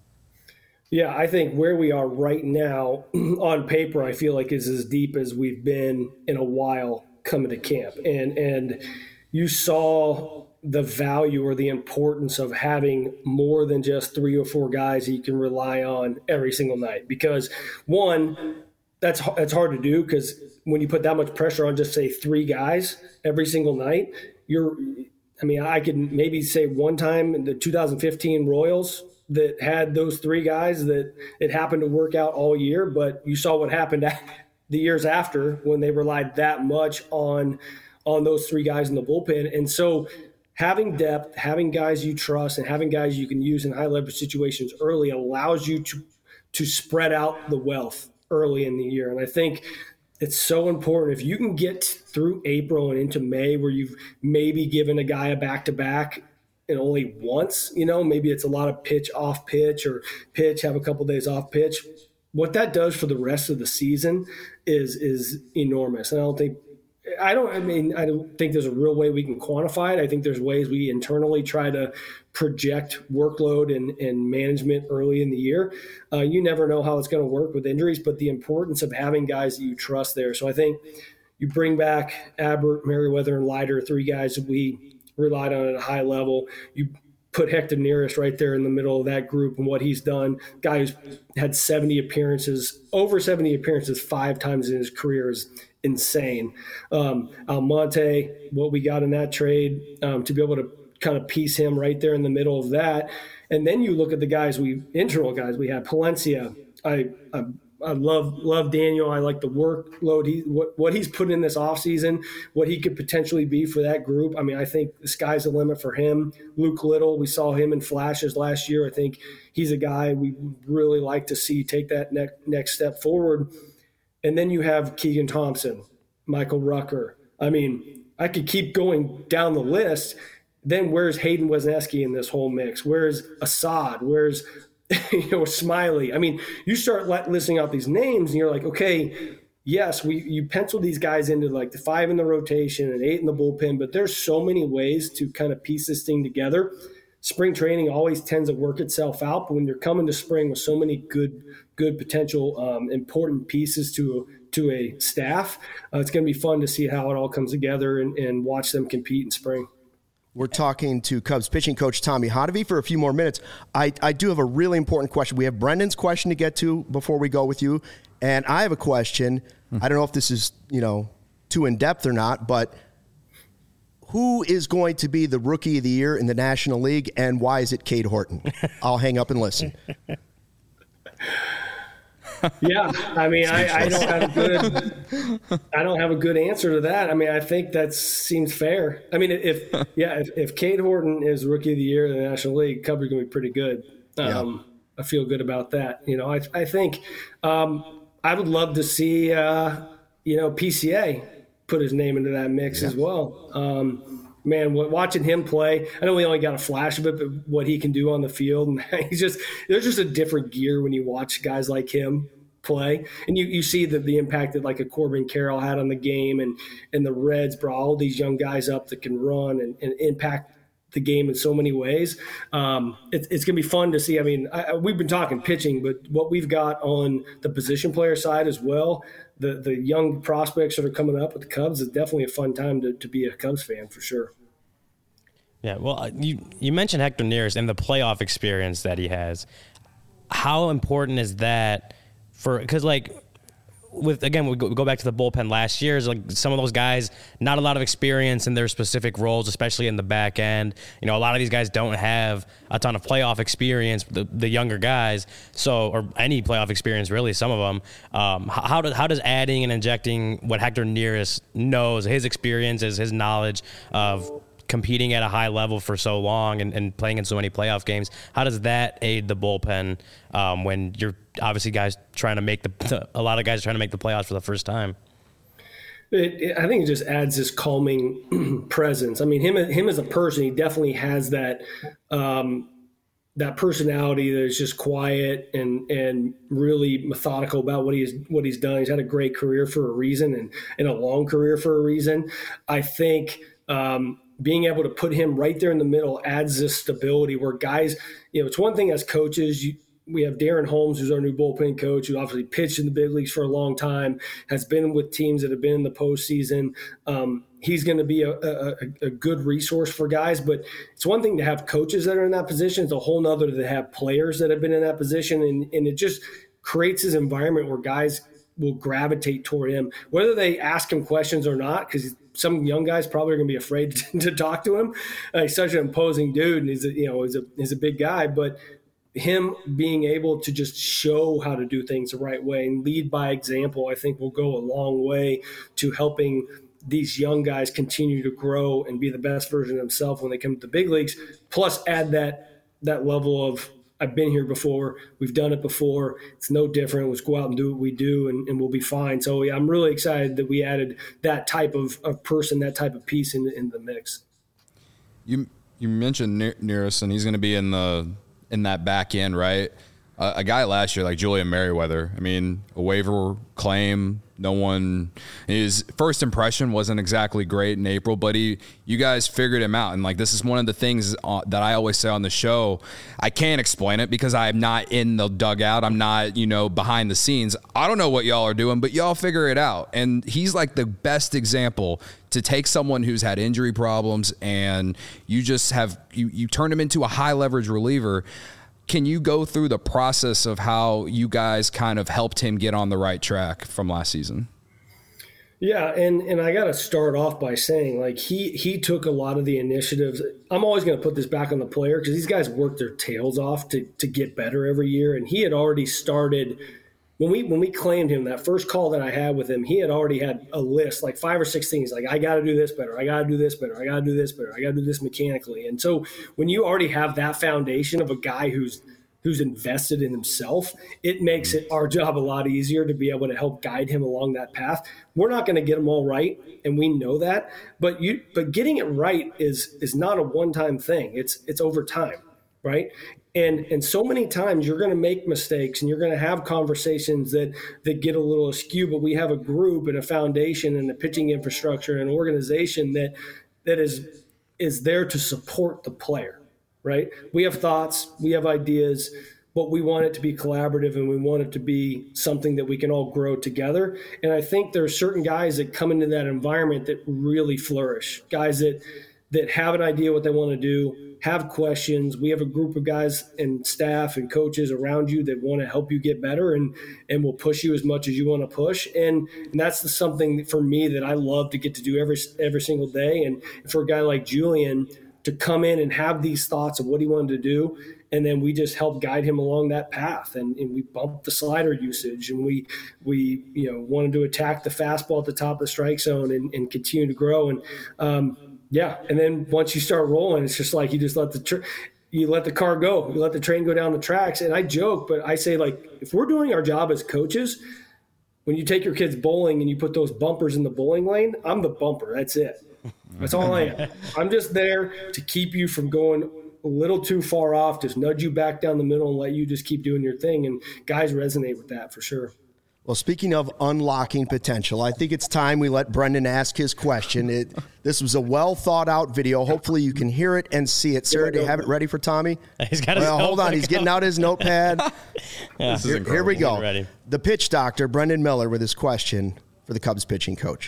Yeah, I think where we are right now on paper, I feel like is as deep as we've been in a while coming to camp. And and you saw the value or the importance of having more than just three or four guys that you can rely on every single night. Because one, that's that's hard to do, because when you put that much pressure on just say three guys every single night, you're, I mean, I could maybe say one time in the two thousand fifteen Royals that had those three guys that it happened to work out all year, but you saw what happened the years after when they relied that much on on those three guys in the bullpen. And so having depth, having guys you trust, and having guys you can use in high leverage situations early allows you to to spread out the wealth early in the year. And I think it's so important. If you can get through April and into May where you've maybe given a guy a back-to-back and only once, you know, maybe it's a lot of pitch off pitch or pitch, have a couple of days off pitch. What that does for the rest of the season is is enormous. And I don't think I don't, I mean, I don't think there's a real way we can quantify it. I think there's ways we internally try to project workload and, and management early in the year. Uh, you never know how it's going to work with injuries, but the importance of having guys that you trust there. So I think you bring back Adbert, Merriweather, and Leiter, three guys that we relied on at a high level. You put Hector Neris right there in the middle of that group and what he's done. Guy who's had seventy appearances, over seventy appearances five times in his career is insane. Um, Almonte, what we got in that trade, um, to be able to kind of piece him right there in the middle of that. And then you look at the guys we internal guys we had. Palencia, I, I I love love Daniel. I like the workload he what, what he's put in this offseason, what he could potentially be for that group. I mean, I think the sky's the limit for him. Luke Little, we saw him in flashes last year. I think he's a guy we really like to see take that ne- next step forward. And then you have Keegan Thompson, Michael Rucker. I mean, I could keep going down the list. Then where's Hayden Wesneski in this whole mix? Where's Assad? Where's you know, Smiley? I mean, you start listing out these names and you're like, okay, yes, we you pencil these guys into like the five in the rotation and eight in the bullpen, but there's so many ways to kind of piece this thing together. Spring training always tends to work itself out, but when you're coming to spring with so many good, good potential um, important pieces to to a staff, uh, it's going to be fun to see how it all comes together and, and watch them compete in spring. We're talking to Cubs pitching coach Tommy Hotovy for a few more minutes. I, I do have a really important question. We have Brendan's question to get to before we go with you, and I have a question. Hmm. I don't know if this is, you know, too in-depth or not, but who is going to be the Rookie of the Year in the National League, and why is it Cade Horton? I'll hang up and listen. Yeah, I mean, I, I don't have a good, I don't have a good answer to that. I mean, I think that seems fair. I mean, if yeah, if, if Cade Horton is Rookie of the Year in the National League, Cubs are going to be pretty good. Um, yeah. I feel good about that. You know, I I think um, I would love to see uh, you know P C A put his name into that mix yeah. as well. Um, man, watching him play, I know we only got a flash of it, but what he can do on the field, and he's just there's just a different gear when you watch guys like him play, and you, you see the, the impact that like a Corbin Carroll had on the game, and and the Reds brought all these young guys up that can run and, and impact the game in so many ways. Um, it, it's going to be fun to see. I mean, I, we've been talking pitching, but what we've got on the position player side as well, the the young prospects that are coming up with the Cubs, is definitely a fun time to, to be a Cubs fan for sure. Yeah, well, you you mentioned Hector Neris and the playoff experience that he has. How important is that for, because like with, again, we go, we go back to the bullpen last year, is like some of those guys, not a lot of experience in their specific roles, especially in the back end. You know, a lot of these guys don't have a ton of playoff experience, the, the younger guys, so, or any playoff experience really, some of them. Um, how, does, how does adding and injecting what Hector Neris knows, his experiences, his knowledge of competing at a high level for so long and, and playing in so many playoff games, how does that aid the bullpen um, when you're obviously guys trying to make the, a lot of guys are trying to make the playoffs for the first time? It, it, I think it just adds this calming presence. I mean, him, him as a person, he definitely has that, um, that personality that is just quiet and, and really methodical about what he's, what he's done. He's had a great career for a reason, and, and a long career for a reason. I think, um, being able to put him right there in the middle adds this stability where guys, you know, it's one thing as coaches, you, we have Darren Holmes, who's our new bullpen coach, who obviously pitched in the big leagues for a long time, has been with teams that have been in the postseason. Um, he's going to be a, a, a good resource for guys, but it's one thing to have coaches that are in that position. It's a whole nother to have players that have been in that position. And, and it just creates this environment where guys will gravitate toward him, whether they ask him questions or not, because some young guys probably are going to be afraid to, to talk to him. Uh, he's such an imposing dude, and he's a, you know he's a he's a big guy. But him being able to just show how to do things the right way and lead by example, I think will go a long way to helping these young guys continue to grow and be the best version of themselves when they come to the big leagues. Plus, add that that level of, I've been here before. We've done it before. It's no different. Let's go out and do what we do, and, and we'll be fine. So, yeah, I'm really excited that we added that type of, of person, that type of piece in, in the mix. You you mentioned Neris, and he's going to be in the in that back end, right? Uh, a guy last year like Julian Merriweather, I mean, a waiver claim. No one, his first impression wasn't exactly great in April, but he, you guys figured him out. And like, this is one of the things that I always say on the show. I can't explain it because I'm not in the dugout. I'm not, you know, behind the scenes. I don't know what y'all are doing, but y'all figure it out. And he's like the best example to take someone who's had injury problems and you just have, you, you turn him into a high leverage reliever. Can you go through the process of how you guys kind of helped him get on the right track from last season? Yeah, and, and I got to start off by saying, like, he he took a lot of the initiatives. I'm always going to put this back on the player because these guys work their tails off to to get better every year, and he had already started when we when we claimed him. That first call that I had with him, he had already had a list, like five or six things, like, I got to do this better, I got to do this better, I got to do this better, I got to do this mechanically. And so when you already have that foundation of a guy who's who's invested in himself, it makes it our job a lot easier to be able to help guide him along that path. We're not going to get him all right, and we know that, but you but getting it right is is not a one-time thing. It's it's over time, right? And and so many times you're going to make mistakes and you're going to have conversations that that get a little askew, but we have a group and a foundation and a pitching infrastructure and an organization that that is is there to support the player. Right? We have thoughts, we have ideas, but we want it to be collaborative and we want it to be something that we can all grow together. And I think there are certain guys that come into that environment that really flourish, guys that that have an idea what they want to do, have questions. We have a group of guys and staff and coaches around you that want to help you get better and and will push you as much as you want to push. And, and that's the, something for me that I love to get to do every every single day. And for a guy like Julian, to come in and have these thoughts of what he wanted to do, and then we just help guide him along that path. And, and we bumped the slider usage, and we we you know wanted to attack the fastball at the top of the strike zone and, and continue to grow. And um, yeah, and then once you start rolling, it's just like you just let the tr- you let the car go, you let the train go down the tracks. And I joke, but I say, like, if we're doing our job as coaches, when you take your kids bowling and you put those bumpers in the bowling lane, I'm the bumper. That's it. That's all I am. I'm just there to keep you from going a little too far off, just nudge you back down the middle and let you just keep doing your thing. And guys resonate with that for sure. Well, speaking of unlocking potential, I think it's time we let Brendan ask his question. It, this was a well-thought-out video. Hopefully you can hear it and see it. Sarah, do you have it ready for Tommy? He's got his well, hold on. notebook He's getting out his notepad. Yeah. This is Here, here we go. Ready. The pitch doctor, Brendan Miller, with his question for the Cubs pitching coach.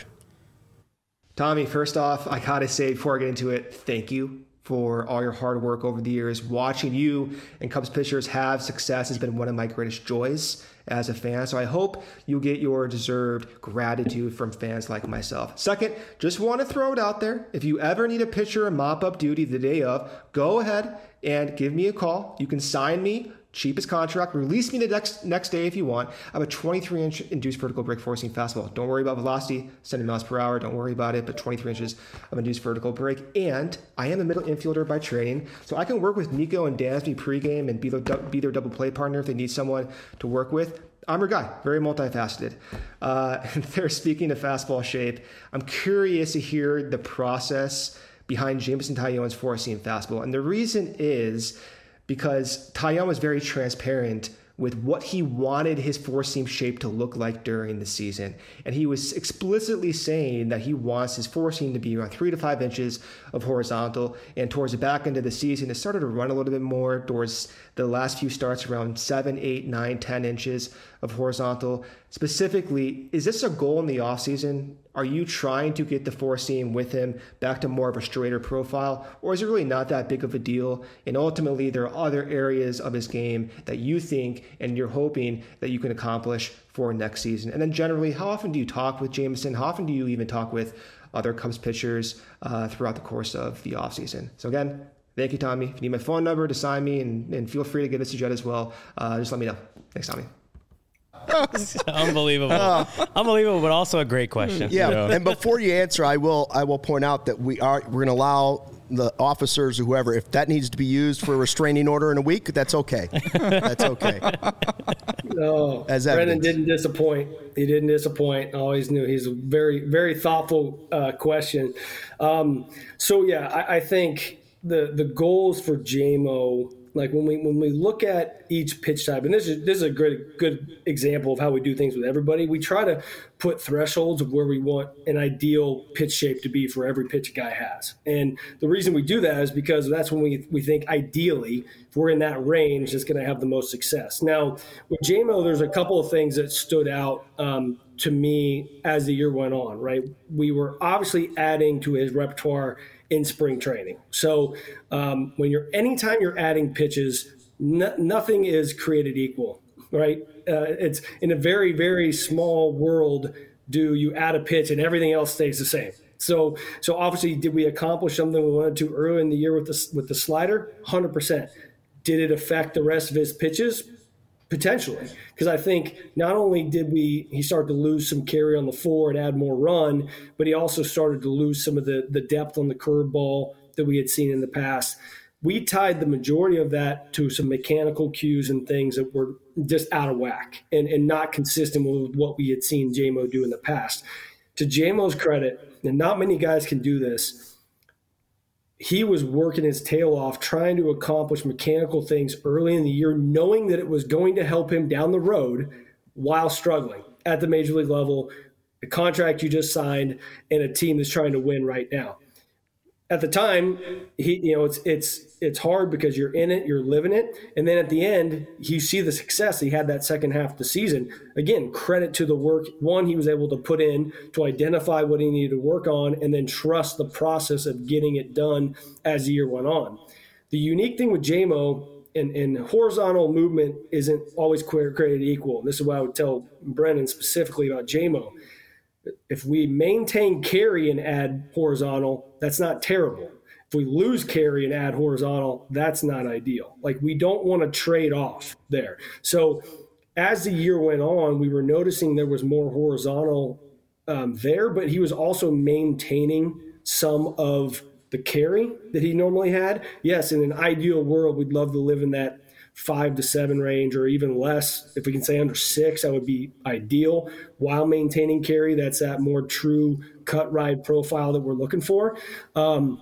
Tommy, first off, I gotta say before I get into it, thank you for all your hard work over the years. Watching you and Cubs pitchers have success has been one of my greatest joys as a fan. So I hope you get your deserved gratitude from fans like myself. Second, just want to throw it out there. If you ever need a pitcher and mop-up duty the day of, go ahead and give me a call. You can sign me. Cheapest contract. Release me the next next day if you want. I have a twenty-three inch induced vertical break four-seam fastball. Don't worry about velocity, seventy miles per hour. Don't worry about it, but twenty-three inches of induced vertical break. And I am a middle infielder by training, so I can work with Nico and Dansby pregame and be their, be their double play partner if they need someone to work with. I'm your guy, very multifaceted. Uh, and they're speaking of fastball shape. I'm curious to hear the process behind Jameson Taillon's four-seam fastball. And the reason is because Taillon was very transparent with what he wanted his four-seam shape to look like during the season. And he was explicitly saying that he wants his four-seam to be around three to five inches of horizontal. And towards the back end of the season, it started to run a little bit more. Towards the last few starts, around seven, eight, nine, ten inches of horizontal. Specifically, is this a goal in the offseason? Are you trying to get the four-seam with him back to more of a straighter profile? Or is it really not that big of a deal? And ultimately, there are other areas of his game that you think and you're hoping that you can accomplish for next season. And then generally, how often do you talk with Jameson? How often do you even talk with other Cubs pitchers uh, throughout the course of the offseason? So again, thank you, Tommy. If you need my phone number to sign me, and, and feel free to give this to Jed as well, uh, just let me know. Thanks, Tommy. Unbelievable. Unbelievable, but also a great question. Yeah, You know? and before you answer, I will I will point out that we are we're going to allow the officers or whoever, if that needs to be used for a restraining order in a week, that's okay. That's okay. No, As Brendan evidence. didn't disappoint. He didn't disappoint. I always knew he's a very, very thoughtful uh, question. Um, so yeah, I, I think the the goals for J M O, like when we when we look at each pitch type, and this is this is a good good example of how we do things with everybody. We try to put thresholds of where we want an ideal pitch shape to be for every pitch a guy has. And the reason we do that is because that's when we we think ideally, if we're in that range, it's going to have the most success. Now with J M O, there's a couple of things that stood out um, to me as the year went on. Right, we were obviously adding to his repertoire in spring training. So um, when you're, anytime you're adding pitches, no, nothing is created equal, right? Uh, it's in a very, very small world. do you add a pitch and everything else stays the same. So, so obviously, did we accomplish something we wanted to early in the year with the with the slider? one hundred percent. Did it affect the rest of his pitches? Potentially, because I think not only did we he start to lose some carry on the floor and add more run, but he also started to lose some of the the depth on the curveball that we had seen in the past. We tied the majority of that to some mechanical cues and things that were just out of whack and, and not consistent with what we had seen J-Mo do in the past. To J-Mo's credit, and not many guys can do this, he was working his tail off trying to accomplish mechanical things early in the year, knowing that it was going to help him down the road while struggling at the major league level, the contract you just signed, and a team that's trying to win right now. At the time, he, you know, it's it's it's hard because you're in it, you're living it, and then at the end, you see the success he had that second half of the season. Again, credit to the work one he was able to put in to identify what he needed to work on, and then trust the process of getting it done as the year went on. The unique thing with J-Mo, and, and horizontal movement isn't always created equal. And this is what I would tell Brendan specifically about J-Mo. If we maintain carry and add horizontal, that's not terrible. If we lose carry and add horizontal, that's not ideal. Like, we don't want to trade off there. So as the year went on, we were noticing there was more horizontal um, there, but he was also maintaining some of the carry that he normally had. Yes, in an ideal world, we'd love to live in that five to seven range or even less. If we can say under six, that would be ideal while maintaining carry. That's that more true cut ride profile that we're looking for. Um,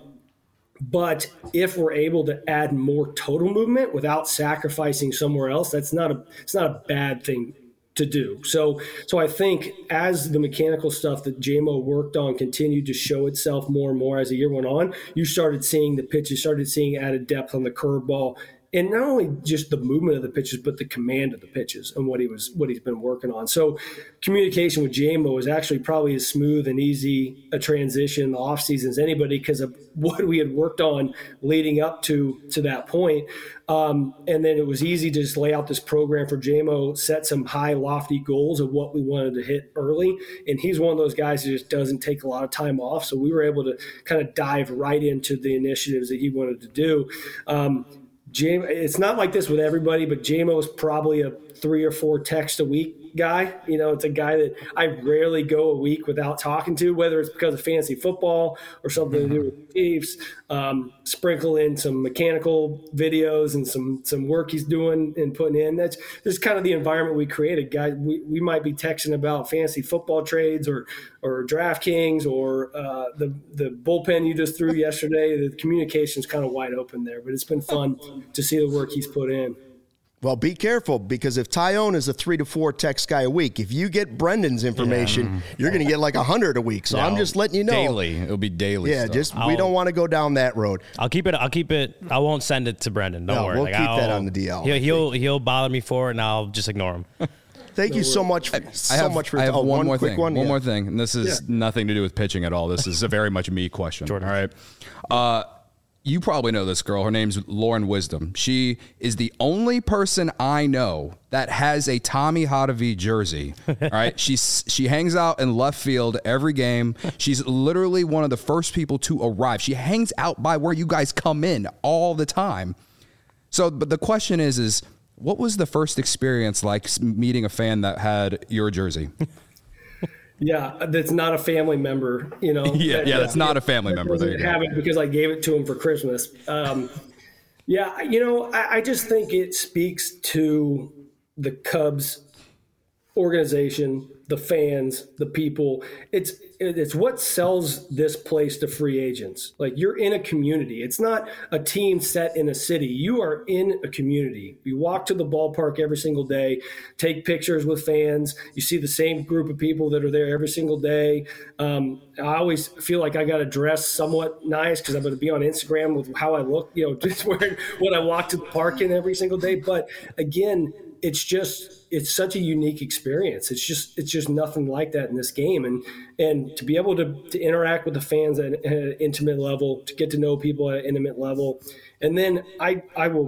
but if we're able to add more total movement without sacrificing somewhere else, that's not a, it's not a bad thing to do. So, so I think as the mechanical stuff that J-Mo worked on continued to show itself more and more as the year went on, you started seeing the pitches, started seeing added depth on the curveball. And not only just the movement of the pitches, but the command of the pitches and what he was, what he's been working on. So communication with J-Mo is actually probably as smooth and easy a transition in the offseason as anybody because of what we had worked on leading up to, to that point. Um, and then it was easy to just lay out this program for J-Mo, set some high, lofty goals of what we wanted to hit early. And he's one of those guys who just doesn't take a lot of time off. So we were able to kind of dive right into the initiatives that he wanted to do. Um, J- it's not like this with everybody, but J-Mo is probably a three or four text a week guy. You know, it's a guy that I rarely go a week without talking to, whether it's because of fantasy football or something mm-hmm. to do with the Chiefs. Um, sprinkle in some mechanical videos and some some work he's doing and putting in. That's just kind of the environment we created. Guys, we, we might be texting about fantasy football trades or or DraftKings or uh, the the bullpen you just threw yesterday. The communication's kind of wide open there, but it's been fun to see the work he's put in. Well, be careful, because if Tyone is a three to four text guy a week, if you get Brendan's information, yeah. you're going to get like a hundred a week. So no, I'm just letting you know. Daily. It'll be daily Yeah, stuff. just I'll, we don't want to go down that road. I'll keep it. I'll keep it. I won't send it to Brendan. Don't no, worry. We'll like, keep I'll, that on the D L. He'll, he'll, he'll bother me for it, and I'll just ignore him. Thank no, you so much. For, I, so I have, much for I have oh, one, one more quick thing. one. One yeah. more thing, and this is yeah. nothing to do with pitching at all. This is a very much a me question. Jordan. All right. Uh, you probably know this girl. Her name's Lauren Wisdom. She is the only person I know that has a Tommy Hotovy jersey. All right. She's, she hangs out in left field every game. She's literally one of the first people to arrive. She hangs out by where you guys come in all the time. So, but the question is, is what was the first experience like meeting a fan that had your jersey? Yeah, that's not a family member, you know. yeah, that, yeah, that's not a family that member. There you go. Have it because I gave it to him for Christmas. Um, yeah, you know, I, I just think it speaks to the Cubs organization, the fans, the people. It's it's what sells this place to free agents. Like, you're in a community. It's not a team set in a city. You are in a community. You walk to the ballpark every single day, take pictures with fans. You see the same group of people that are there every single day. Um, I always feel like I got to dress somewhat nice because I'm going to be on Instagram with how I look, you know, just wearing what I walk to the park in every single day. But again, it's just, it's such a unique experience. It's just, it's just nothing like that in this game. And, and to be able to, to interact with the fans at, at an intimate level, to get to know people at an intimate level. And then I, I will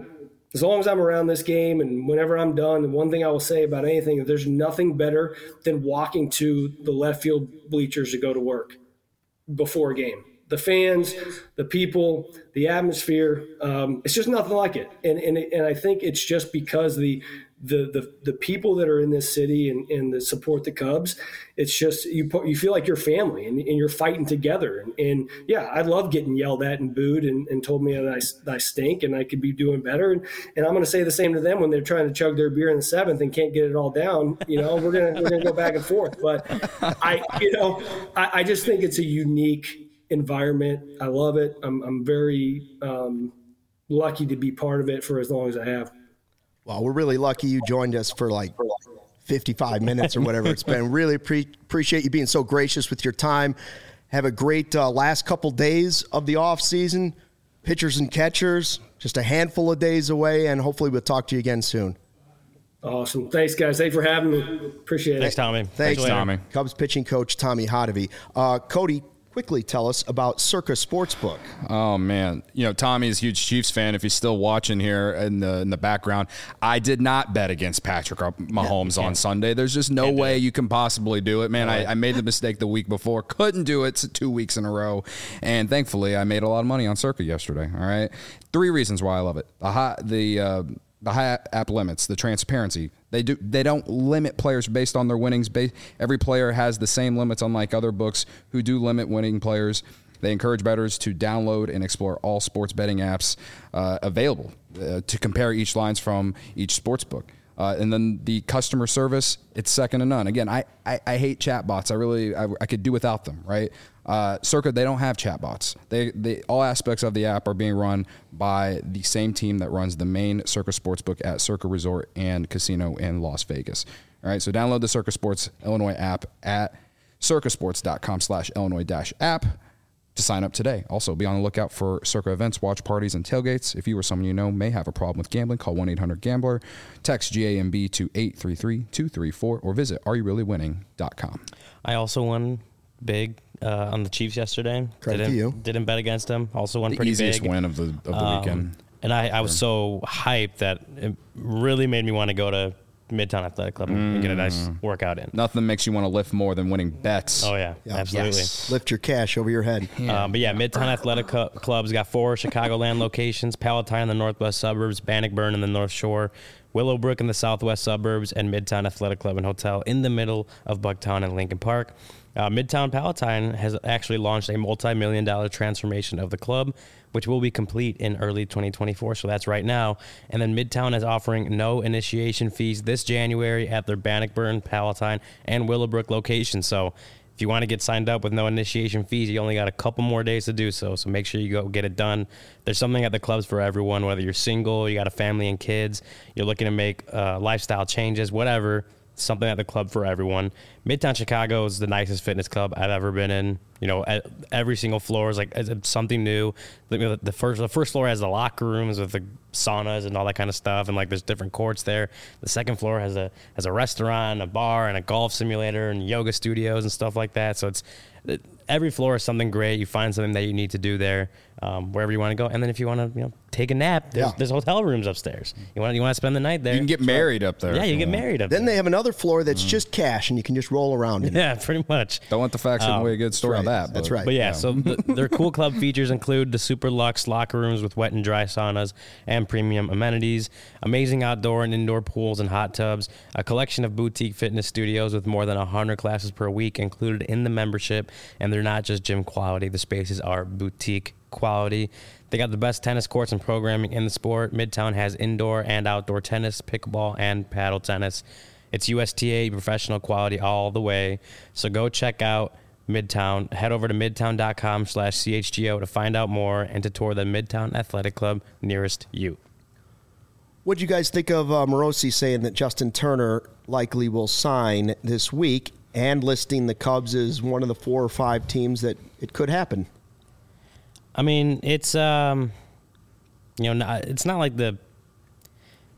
as long as I'm around this game and whenever I'm done, and one thing I will say about anything, there's nothing better than walking to the left field bleachers to go to work before a game. The fans, the people, the atmosphere, um, it's just nothing like it. And, and and I think it's just because the the the, the people that are in this city and, and that support the Cubs, it's just you you feel like you're family and, and you're fighting together. And, and yeah, I love getting yelled at and booed and, and told me that I, that I stink and I could be doing better. And, and I'm going to say the same to them when they're trying to chug their beer in the seventh and can't get it all down. You know, we're gonna we're gonna go back and forth. But I you know I, I just think it's a unique environment. I love it. I'm, I'm very um, lucky to be part of it for as long as I have. Well, we're really lucky you joined us for like fifty-five minutes or whatever it's been. Really pre- appreciate you being so gracious with your time. Have a great uh, last couple days of the off season. Pitchers and catchers, just a handful of days away, and hopefully we'll talk to you again soon. Awesome. Thanks, guys. Thanks for having me. Appreciate Thanks, it. Tommy. Thanks, Thanks Tommy. Cubs pitching coach Tommy Hotovy. Uh, Cody, quickly tell us about Circa Sportsbook. Oh man, you know Tommy is a huge Chiefs fan. If he's still watching here in the in the background, I did not bet against Patrick Mahomes on Sunday. There's just no way you can possibly do it, man. I, I made the mistake the week before, couldn't do it two weeks in a row, and thankfully I made a lot of money on Circa yesterday. All right, three reasons why I love it: the high, the uh, the high app limits, the transparency. They do. They don't limit players based on their winnings. Every player has the same limits, unlike other books who do limit winning players. They encourage bettors to download and explore all sports betting apps uh, available uh, to compare each lines from each sports book. Uh, and then the customer service, it's second to none. Again, I, I, I hate chatbots. I really, I, I could do without them, right? Uh, Circa, they don't have chatbots. They, they, all aspects of the app are being run by the same team that runs the main Circa Sportsbook at Circa Resort and Casino in Las Vegas. All right, so download the Circa Sports Illinois app at circasports.com slash Illinois dash app to sign up today. Also, be on the lookout for Circa events, watch parties, and tailgates. If you or someone you know may have a problem with gambling, call one eight hundred gambler, text G A M B to eight three three two three four, or visit are you really winning dot com. I also won big uh, on the Chiefs yesterday. Credit didn't, to you. Didn't bet against them. Also won The pretty easiest big. win of the of the Um, weekend. And I, I was so hyped that it really made me want to go to Midtown Athletic Club and get a nice workout in. Nothing makes you want to lift more than winning bets. Oh, yeah, Yeah. absolutely. Yes. Lift your cash over your head. Um, but yeah, Midtown Athletic Cu- Club's got four Chicagoland locations: Palatine in the northwest suburbs, Bannockburn in the north shore, Willowbrook in the southwest suburbs, and Midtown Athletic Club and Hotel in the middle of Bucktown and Lincoln Park. Uh, Midtown Palatine has actually launched a multi-million dollar transformation of the club, which will be complete in early twenty twenty-four. So that's right now. And then Midtown is offering no initiation fees this January at their Bannockburn, Palatine, and Willowbrook locations. So if you want to get signed up with no initiation fees, you only got a couple more days to do so. So make sure you go get it done. There's something at the clubs for everyone, whether you're single, you got a family and kids, you're looking to make uh, lifestyle changes, whatever. Something at the club for everyone. Midtown Chicago is the nicest fitness club I've ever been in. You know, every single floor is like it's something new. The first the first floor has the locker rooms with the saunas and all that kind of stuff, and like there's different courts there. The second floor has a has a restaurant, a bar, and a golf simulator, and yoga studios and stuff like that. So it's every floor is something great. You find something that you need to do there, um, wherever you want to go. And then if you want to, you know, take a nap, there's, Yeah. there's hotel rooms upstairs. You want you want to spend the night there. You can get married up there. Yeah, if you get want. married up Then there. they have another floor that's just cash, and you can just roll around in it. Yeah, pretty much. Don't let the facts give Um, away a good story on right. that. That's but- right. But yeah, so the, their cool club features include the super luxe locker rooms with wet and dry saunas and premium amenities, amazing outdoor and indoor pools and hot tubs, a collection of boutique fitness studios with more than one hundred classes per week included in the membership, and they're not just gym quality. The spaces are boutique quality. They got the best tennis courts and programming in the sport. Midtown has indoor and outdoor tennis, pickleball, and paddle tennis. It's U S T A professional quality all the way. So go check out Midtown. Head over to midtown.com slash CHGO to find out more and to tour the Midtown Athletic Club nearest you. What do you guys think of uh, Morosi saying that Justin Turner likely will sign this week and listing the Cubs as one of the four or five teams that it could happen? I mean, it's um, you know, not, it's not like the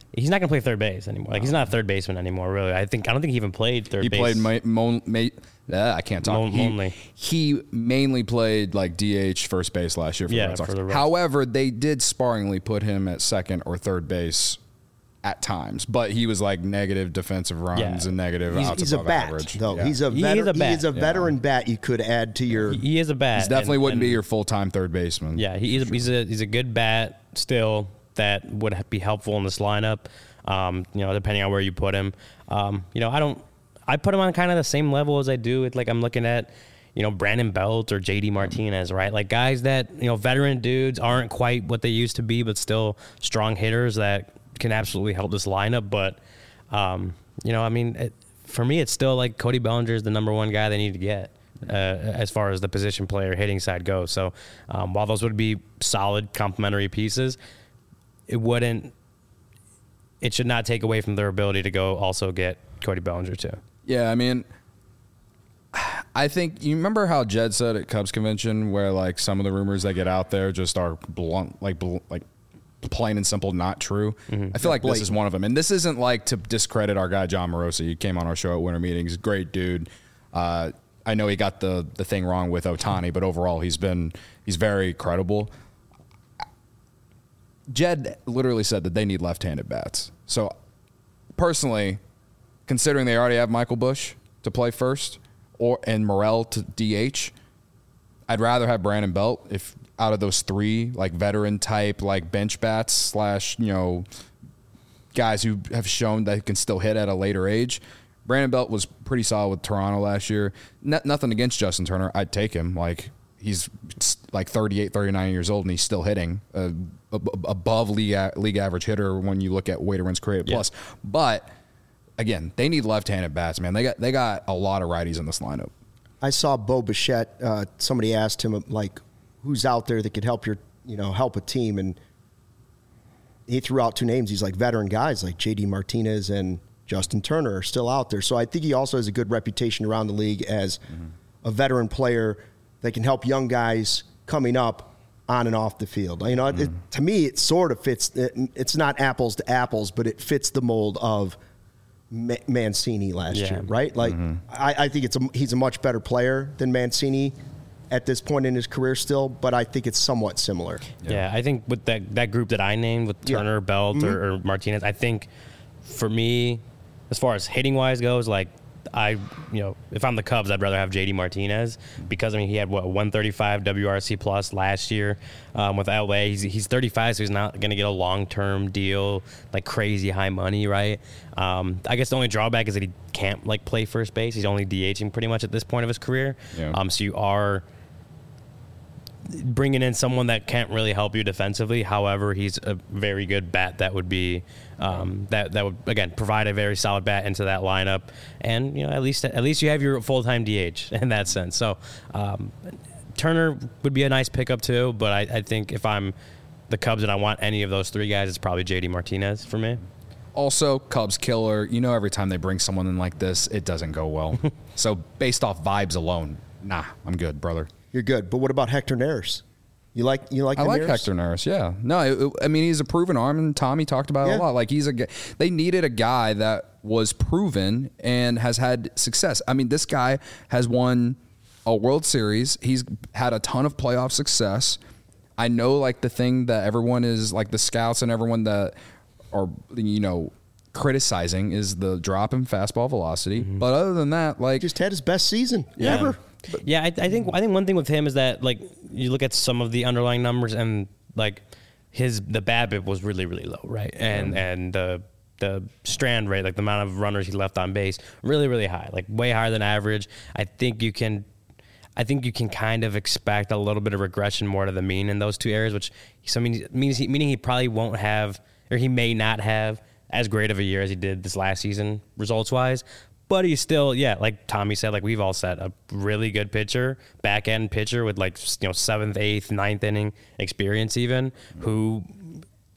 he's not going to play third base anymore. Like he's not a third baseman anymore, really. I think I don't think he even played third he base. He played ma- ma- ma- uh, I can't talk. Mon- he, mainly. he mainly played like D H first base last year for yeah, the Red Sox. For the Red- However, they did sparingly put him at second or third base at times, but he was like negative defensive runs Yeah. and negative He's, outs he's a above bat, average. though. Yeah. He's a He veteran. is a bat. He is a veteran bat. You could add to your. He is a bat. He definitely and- wouldn't and- be your full time third baseman. Yeah, he is. He's a he's a good bat still that would be helpful in this lineup. Um, you know, depending on where you put him. Um, you know, I don't. I put him on kind of the same level as I do with like I'm looking at, you know, Brandon Belt or J D Martinez, right? Like guys that you know, veteran dudes aren't quite what they used to be, but still strong hitters that can absolutely help this lineup. But um, you know, I mean, it, for me, it's still like Cody Bellinger is the number one guy they need to get. Uh, as far as the position player hitting side goes. So um, while those would be solid complementary pieces, it wouldn't, it should not take away from their ability to go also get Cody Bellinger too. Yeah, I mean, I think you remember how Jed said at Cubs convention where like some of the rumors that get out there just are blunt, like bl- like plain and simple not true. Mm-hmm. I feel like this is one of them, and this isn't like to discredit our guy John Morosi. He came on our show at Winter Meetings, great dude. Uh, I know he got the the thing wrong with Ohtani, but overall he's been he's very credible. Jed literally said that they need left-handed bats. So personally, considering they already have Michael Busch to play first or and Morel to D H, I'd rather have Brandon Belt if out of those three, like veteran type, like bench bats slash, you know, guys who have shown that can still hit at a later age. Brandon Belt was pretty solid with Toronto last year. N- nothing against Justin Turner. I'd take him. Like he's like thirty-eight, thirty-nine years old and he's still hitting uh, above league a- league average hitter when you look at weighted runs created yeah. plus. But again, they need left-handed bats, man. They got they got a lot of righties in this lineup. I saw Bo Bichette. Uh, somebody asked him like, "Who's out there that could help your, you know, help a team?" And he threw out two names. He's like veteran guys like J D Martinez and Justin Turner are still out there. So I think he also has a good reputation around the league as mm-hmm. a veteran player that can help young guys coming up on and off the field. You know, mm-hmm. it, to me, it sort of fits. It, it's not apples to apples, but it fits the mold of Mancini last yeah. year, right? Like, mm-hmm. I, I think it's a, he's a much better player than Mancini at this point in his career still, but I think it's somewhat similar. Yeah, yeah I think with that that group that I named with Turner, yeah. Belt, mm-hmm. or, or Martinez, I think for me, as far as hitting wise goes, like I, you know, if I'm the Cubs, I'd rather have J D Martinez because I mean he had what one thirty-five W R C plus last year um, with L A. He's he's thirty-five, so he's not going to get a long term deal like crazy high money, right? Um, I guess the only drawback is that he can't like play first base. He's only DHing pretty much at this point of his career. Yeah. Um, so you are bringing in someone that can't really help you defensively. However, he's a very good bat that would be um, that that would again provide a very solid bat into that lineup, and you know at least at least you have your full time D H in that sense. So um, Turner would be a nice pickup too, but I, I think if I'm the Cubs and I want any of those three guys, it's probably J D Martinez for me. Also, Cubs killer. You know, every time they bring someone in like this, it doesn't go well. So based off vibes alone, nah, I'm good, brother. You're good. But what about Hector Neris? You like you like? I like Neris? Hector Neris. Yeah. No, it, it, I mean he's a proven arm, and Tommy talked about it yeah. a lot. Like he's a. They needed a guy that was proven and has had success. I mean, this guy has won a World Series. He's had a ton of playoff success. I know, like the thing that everyone is like the scouts and everyone that are you know criticizing is the drop in fastball velocity. Mm-hmm. But other than that, like just had his best season yeah. ever. But yeah, I, I think I think one thing with him is that like you look at some of the underlying numbers and like his the BABIP was really really low, right? And yeah. and the the strand rate, like the amount of runners he left on base, really really high, like way higher than average. I think you can, I think you can kind of expect a little bit of regression more to the mean in those two areas, which so means means he, meaning he probably won't have or he may not have as great of a year as he did this last season results wise. But he's still, yeah, like Tommy said, like we've all said, a really good pitcher, back end pitcher with like you know seventh, eighth, ninth inning experience, even who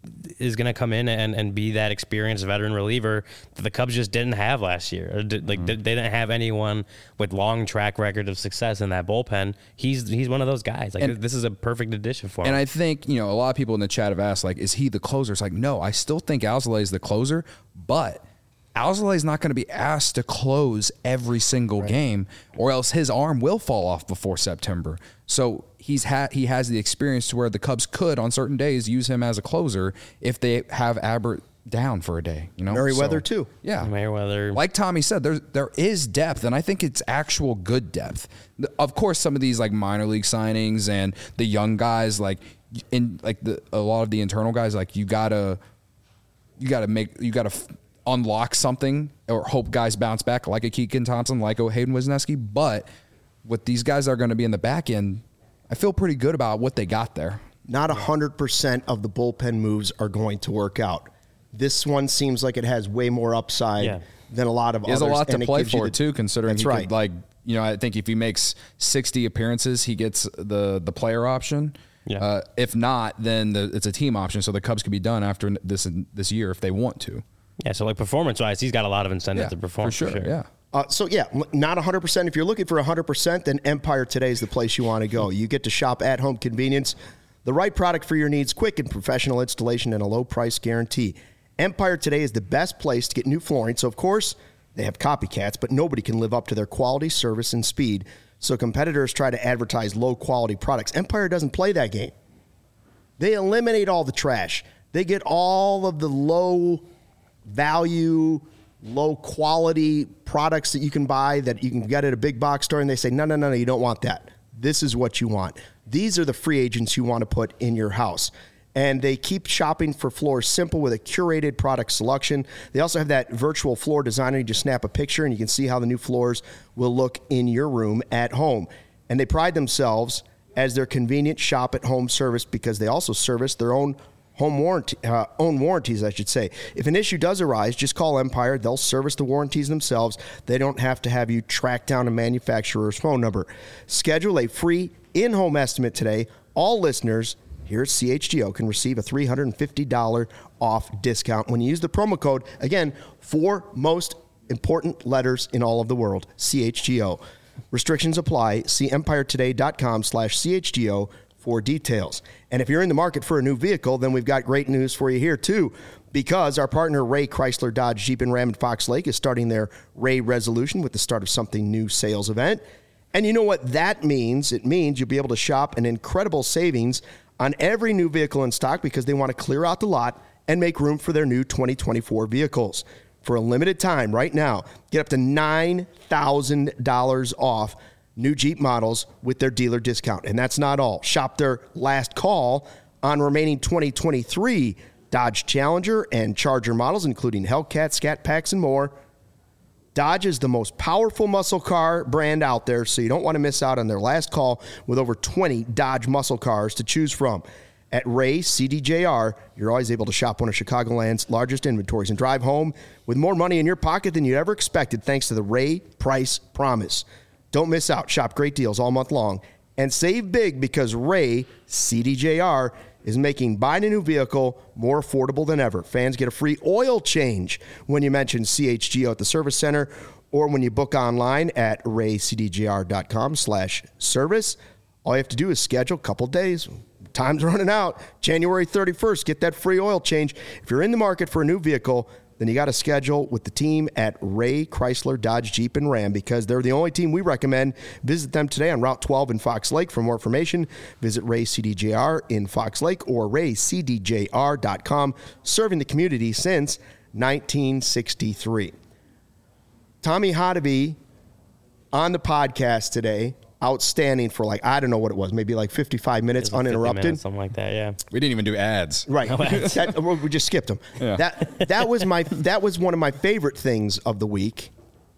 is going to come in and, and be that experienced veteran reliever that the Cubs just didn't have last year. Or did, like mm. they didn't have anyone with long track record of success in that bullpen. He's he's one of those guys. Like and, this is a perfect addition for him. And I think, you know, a lot of people in the chat have asked, like, is he the closer? It's like, no, I still think Alzolay is the closer, but Alzolay is not going to be asked to close every single right. game, or else his arm will fall off before September. So he's had he has the experience to where the Cubs could on certain days use him as a closer if they have Abbott down for a day. You know, Merriweather so, too. Yeah, Merriweather. Like Tommy said, there there is depth, and I think it's actual good depth. Of course, some of these like minor league signings and the young guys, like in like the a lot of the internal guys, like you gotta you gotta make you gotta. F- unlock something or hope guys bounce back like a Keegan Thompson, like a Hayden Wisniewski. But with these guys that are going to be in the back end, I feel pretty good about what they got there. Not one hundred percent of the bullpen moves are going to work out. This one seems like it has way more upside yeah. than a lot of There's others. There's a lot to play for, the, too, considering that's he right. could, like, you know, I think if he makes sixty appearances, he gets the, the player option. Yeah. Uh, if not, then the, it's a team option, so the Cubs could be done after this this year if they want to. Yeah, so like performance-wise, he's got a lot of incentive yeah, to perform. For sure, for sure. yeah. Uh, so, yeah, not one hundred percent. If you're looking for one hundred percent, then Empire Today is the place you want to go. You get to shop at home convenience, the right product for your needs, quick and professional installation, and a low price guarantee. Empire Today is the best place to get new flooring. So, of course, they have copycats, but nobody can live up to their quality, service, and speed. So competitors try to advertise low-quality products. Empire doesn't play that game. They eliminate all the trash. They get all of the low value, low quality products that you can buy that you can get at a big box store, and they say, no, no, no, no, you don't want that. This is what you want. These are the free agents you want to put in your house. And they keep shopping for floors simple with a curated product selection. They also have that virtual floor designer. You just snap a picture and you can see how the new floors will look in your room at home. And they pride themselves as their convenient shop at home service because they also service their own home warranty, uh, own warranties, I should say. If an issue does arise, just call Empire. They'll service the warranties themselves. They don't have to have you track down a manufacturer's phone number. Schedule a free in-home estimate today. All listeners here at C H G O can receive a three hundred fifty dollars off discount when you use the promo code, again, four most important letters in all of the world, C H G O. Restrictions apply. See empiretoday.com slash CHGO for details. And if you're in the market for a new vehicle, then we've got great news for you here too, because our partner Ray Chrysler Dodge Jeep and Ram in Fox Lake is starting their Ray Resolution with the Start of Something New sales event. And you know what that means? It means you'll be able to shop an incredible savings on every new vehicle in stock because they want to clear out the lot and make room for their new twenty twenty-four vehicles. For a limited time right now, get up to nine thousand dollars off new Jeep models with their dealer discount. And that's not all. Shop their last call on remaining twenty twenty-three Dodge Challenger and Charger models, including Hellcat, Scat Packs, and more. Dodge is the most powerful muscle car brand out there, so you don't want to miss out on their last call with over twenty Dodge muscle cars to choose from. At Ray C D J R, you're always able to shop one of Chicagoland's largest inventories and drive home with more money in your pocket than you ever expected thanks to the Ray Price Promise. Don't miss out. Shop great deals all month long and save big because Ray C D J R is making buying a new vehicle more affordable than ever. Fans get a free oil change when you mention C H G O at the service center or when you book online at raycdjr.com slash service. All you have to do is schedule a couple days. Time's running out. January thirty-first, get that free oil change. If you're in the market for a new vehicle, then you got to schedule with the team at Ray Chrysler Dodge Jeep and Ram because they're the only team we recommend. Visit them today on Route twelve in Fox Lake. For more information, visit Ray C D J R in Fox Lake or ray c d j r dot com, serving the community since nineteen sixty-three. Tommy Hotovy on the podcast today. Outstanding for like, I don't know what it was, maybe like fifty-five minutes like uninterrupted. Minutes, something like that, yeah. We didn't even do ads. Right. No ads. that, we just skipped them. Yeah. That that was my that was one of my favorite things of the week.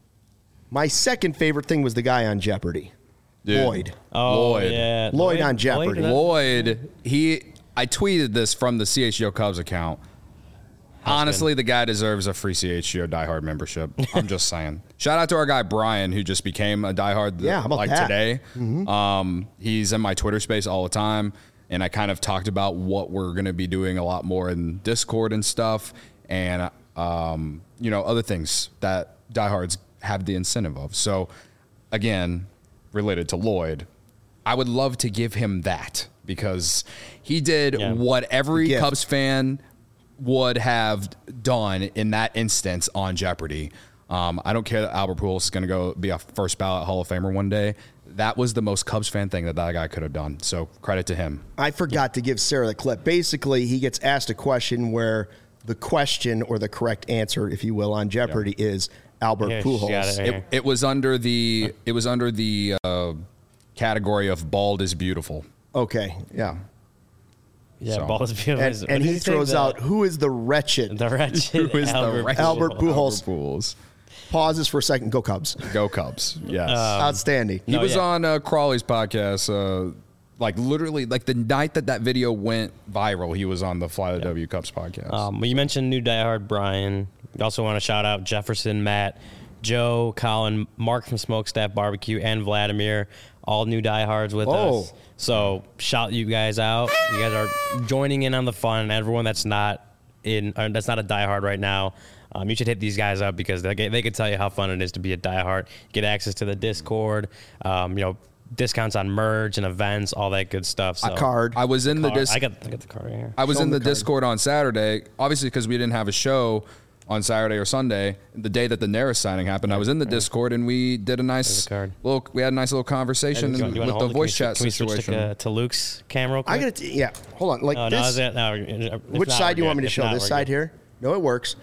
My second favorite thing was the guy on Jeopardy. Dude. Lloyd. Oh, Lloyd. yeah. Lloyd on Jeopardy. Lloyd, Lloyd, he I tweeted this from the C H G O Cubs account. Honestly, the guy deserves a free C H G O diehard membership. I'm just saying. Shout out to our guy Brian, who just became a diehard yeah, how about like that? today. Mm-hmm. Um, he's in my Twitter space all the time. and I kind of talked about what we're going to be doing a lot more in Discord and stuff, and um, you know, other things that diehards have the incentive of. So, again, related to Lloyd, I would love to give him that because he did Yeah. what every Gift. Cubs fan would have done in that instance on Jeopardy. Um, I don't care that Albert Pujols is going to go be a first ballot Hall of Famer one day. That was the most Cubs fan thing that that guy could have done. So credit to him. I forgot to give Sarah the clip. Basically, he gets asked a question where the question or the correct answer, if you will, on Jeopardy is Albert Here, she's got Pujols. it right It, here. it was under the it was under the uh, category of bald is beautiful. Okay, yeah. Yeah, So- ball is beautiful. And, What and did he you say? throws The- out, who is the wretched? the wretched Who is the Albert wretched- Albert Pujols. Pujols. Albert Pujols. Pauses for a second. Go Cubs. Go Cubs. Yes. Outstanding. he no, was yeah. on uh, Crawley's podcast, uh, like literally, like the night that that video went viral, he was on the Fly the W Cubs podcast. Um, well, you mentioned new diehard Brian. We also want to shout out Jefferson, Matt, Joe, Colin, Mark from Smokestack Barbecue, and Vladimir, all new diehards with Oh. us. So shout you guys out. You guys are joining in on the fun. Everyone that's not in, or that's not a diehard right now, um, you should hit these guys up because they they could tell you how fun it is to be a diehard. Get access to the Discord. Um, you know. Discounts on merch and events, all that good stuff. So A card. I was in the Card. dis- I got I got the card right here. I was Show in him the, the card. Discord on Saturday, obviously because we didn't have a show on Saturday or Sunday, the day that the Neris signing happened. I was in the Discord and we did a nice There's the card. little. We had a nice little conversation You want- and you wanna with the hold it? voice Can we- chat can we switch situation. To, uh, to Luke's camera real quick? I got to, yeah. Hold on. Like Oh, no, this. is it? No, if Which not, side we're do you want good. me to If show? not, This we're side good. here? No, it works.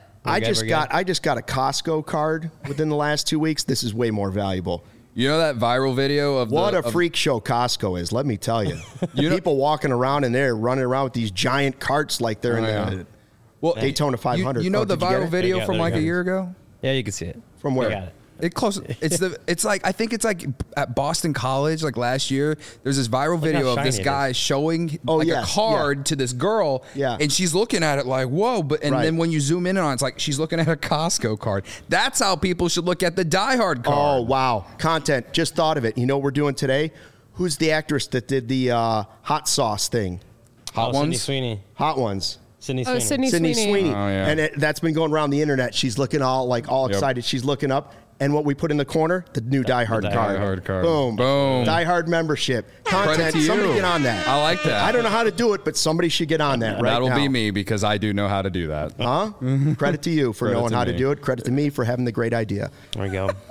I good, just we're got good? I just got a Costco card within the last two weeks. This is way more valuable. You know that viral video of What the, a of- freak show Costco is, let me tell you. You know- People walking around in there, running around with these giant carts like they're Oh, in yeah. the well, Daytona five You, hundred. you know Oh, the did you get viral it? video There you go, from there you like a go. year ago. Yeah, you can see it. From You where? got it. It close. It's the. It's like I think it's like at Boston College, like last year. There's this viral how video of shiny this it guy is. showing Oh, like yes, a card yeah. to this girl, Yeah. and she's looking at it like, whoa! But and Right. then when you zoom in on it, it's like she's looking at a Costco card. That's how people should look at the Die Hard Oh, card. wow. Content. Just thought of it. You know what we're doing today? Who's the actress that did the uh, hot sauce thing? Hot oh, Sydney ones. Sweeney. Hot ones. Sydney Oh, Sweeney. Sydney Sydney Sweeney. Sweeney. Oh, yeah. And it, that's been going around the internet. She's looking all like all Yep. excited. She's looking up. And what we put in the corner, the new Die Hard Die card. Hard card. Boom. Boom. Die Hard membership. Credit Content. to you. Somebody get on that. I like that. I don't know how to do it, but somebody should get on that right That'll now. be me because I do know how to do that. Huh? Credit to you for Credit knowing to how to me. do it. Credit to me for having the great idea. There we go.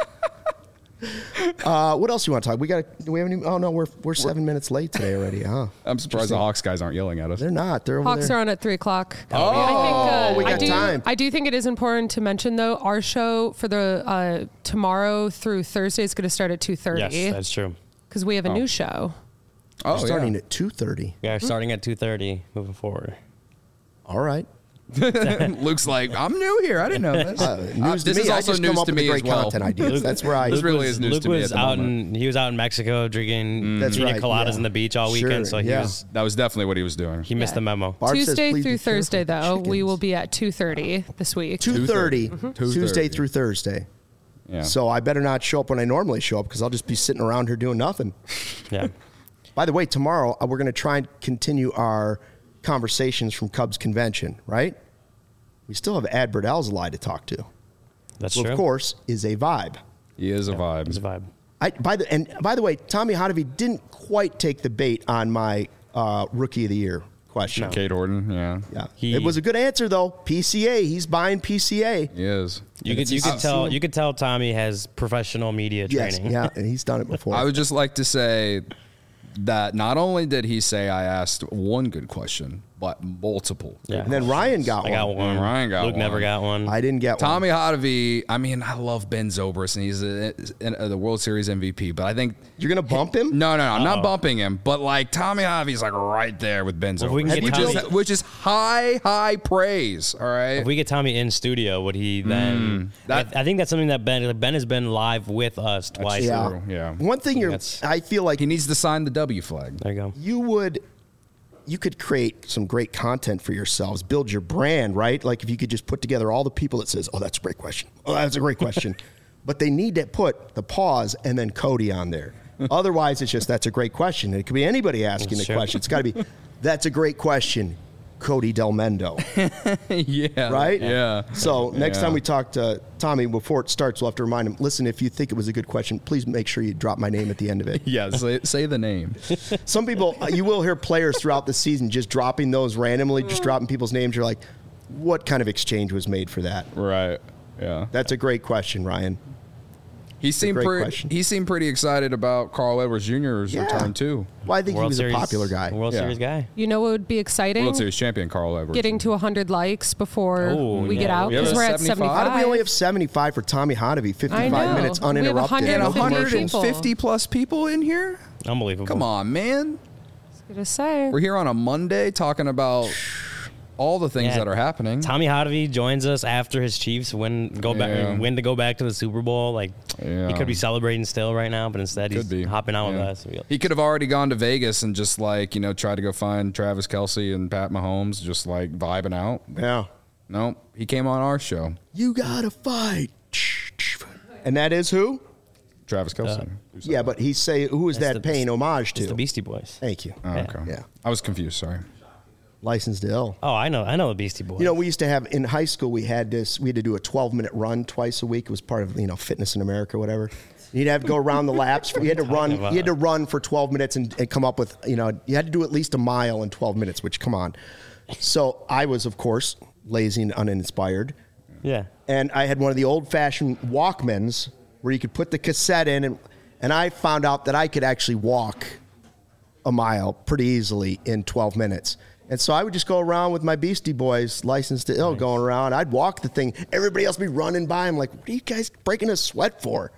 Uh, what else do you want to talk? We got. Do we have any? Oh no, we're we're seven minutes late today already, huh? I'm surprised the Hawks guys aren't yelling at us. They're not. They're over Hawks there. are on at three o'clock. Oh, I think, uh, we got I do, time. I do think it is important to mention though. Our show for the uh, tomorrow through Thursday is going to start at two Yes, thirty that's true. because we have a new show. Oh, We're starting yeah. at two thirty. We are starting at two thirty, moving forward. All right. Luke's like, I'm new here. I didn't know this. Uh, news to this me. is I also just news come up to with the me great as well. content ideas. That's where I. This really Luke is was, news Luke to me was at the out moment. in he was out in Mexico drinking That's pina right, coladas yeah. in the beach all Sure, weekend, so he yeah. was That was definitely what he was doing. he missed Yeah. the memo. Barb says, Tuesday "Please through be careful Thursday with though, we chickens." will be at two thirty this week. two thirty two Tuesday thirty. through Thursday. Yeah. So I better not show up when I normally show up because I'll just be sitting around here doing nothing. Yeah. By the way, tomorrow uh, we're going to try and continue our conversations from Cubs convention, right? We still have Adbert Alzolay to talk to. That's Well, true. of course, is a vibe. he is a vibe. It's a vibe. I by the and by the way, Tommy Hotovy didn't quite take the bait on my uh, rookie of the year question. No. Kate Horton, yeah. Yeah, He- it was a good answer though. P C A, he's buying P C A. He is. You could you could tell you could tell Tommy has professional media Yes, training. yeah, and he's done it before. I would just like to say that not only did he say I asked one good question, but multiple. Yeah. and then Ryan got I one. got one. Ryan got Luke never one. got one. I didn't get Tommy one. Hotovy, I mean, I love Ben Zobrist, and he's a, a, a, the World Series M V P, but I think You're gonna bump him? No, no, no. I'm Uh-oh. not bumping him, but like Tommy Hotovy's like right there with Ben Well, if we can Zobrist, get which, Tommy- is, which is high, high praise. All right. If we get Tommy in studio, would he then? that- I, I think that's something that Ben Ben has been live with us twice. true. Yeah, yeah. One thing you're, That's- I feel like he needs to sign the W flag. There you go. you would, you could create some great content for yourselves, build your brand, right? Like if you could just put together all the people that says, "Oh, that's a great question. Oh, that's a great question," but they need to put the pause and then Cody on there. Otherwise, it's just, that's a great question. It could be anybody asking the Sure. question. It's got to be, that's a great question, Cody Del Mendo. yeah. Right? Yeah. So next Yeah. time we talk to Tommy, before it starts, we'll have to remind him, listen, if you think it was a good question, please make sure you drop my name at the end of it. Yeah. Say, say the name. Some people, uh, you will hear players throughout the season just dropping those randomly, just dropping people's names. You're like, what kind of exchange was made for that? Right. Yeah. That's a great question, Ryan. He seemed great pretty. question. He seemed pretty excited about Carl Edwards Junior's Yeah. return too. Well, I think World he was Series, a popular guy. World Yeah. Series guy. You know what would be exciting? World Series champion Carl Edwards. Getting to one hundred likes before Oh, we yeah. get out We have because a we're at seventy-five. seventy-five. How do we only have seventy-five for Tommy Hotovy? I fifty-five know. minutes We have uninterrupted. and one hundred one fifty hundred fifty plus people in here. Unbelievable. Come on, man. Gonna say. We're here on a Monday talking about all the things Yeah. that are happening. Tommy Hotovy joins us after his Chiefs win go Yeah. back win to go back to the Super Bowl. Like Yeah. he could be celebrating still right now, but instead he's Could be hopping out Yeah. with us. He could have already gone to Vegas and just like you know tried to go find Travis Kelce and Pat Mahomes, just like vibing out. Yeah. No, he came on our show. You gotta fight. And that is who? Travis Kelce. Yeah, but he's say who is That's that the- paying homage It's to? the Beastie Boys. Thank you. Oh, Yeah. okay. Yeah. I was confused. Sorry. Licensed to ill. Oh, I know, I know the Beastie Boys. You know, we used to have in high school. We had this. We had to do a twelve minute run twice a week. It was part of you know Fitness in America, whatever. You'd have to go around the laps. You had to run. about? You had to run for twelve minutes and, and come up with you know. You had to do at least a mile in twelve minutes. Which come on. So I was of course lazy and uninspired, yeah. and I had one of the old fashioned Walkmans where you could put the cassette in, and and I found out that I could actually walk a mile pretty easily in twelve minutes. And so I would just go around with my Beastie Boys, licensed to ill, Nice. going around. I'd walk the thing. Everybody else would be running by. I'm like, what are you guys breaking a sweat for?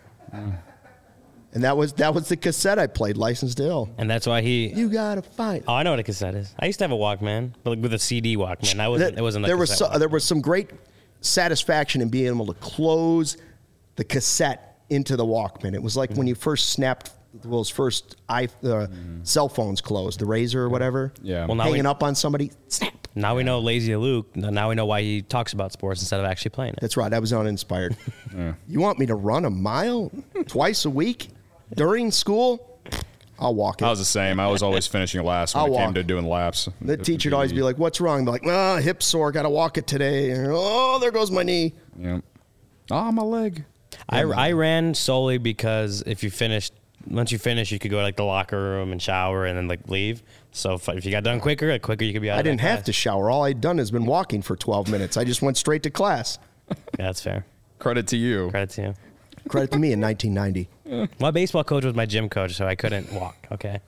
And that was that was the cassette I played, licensed to ill. And that's why he. You gotta fight. Oh, I know what a cassette is. I used to have a Walkman, but like with a C D Walkman. I wasn't. It wasn't. A there was cassette so, there was some great satisfaction in being able to close the cassette into the Walkman. It was like when you first snapped those first i uh, cell phones closed, the Razor or whatever. Yeah. Well, now hanging we- up on somebody. Snap. Now we know Lazy Luke. Now we know why he talks about sports instead of actually playing it. That's right. I was uninspired. You want me to run a mile twice a week during school? I'll walk it. I was the same. I was always finishing last when I'll it came walk. to doing laps. The teacher would always be like, "What's wrong?" I'd be like, "Oh, hip sore. Got to walk it today." Oh, there goes my knee. Yeah. Oh, my leg. I, I ran solely because if you finished, once you finish, you could go to like the locker room and shower and then like leave. So if, if you got done quicker, like quicker you could be out. I of that didn't have class. to shower. All I'd done has been walking for twelve minutes. I just went straight to class. Yeah, that's fair. Credit to you. Credit to you. Credit to me in nineteen ninety. My baseball coach was my gym coach, so I couldn't walk. Okay.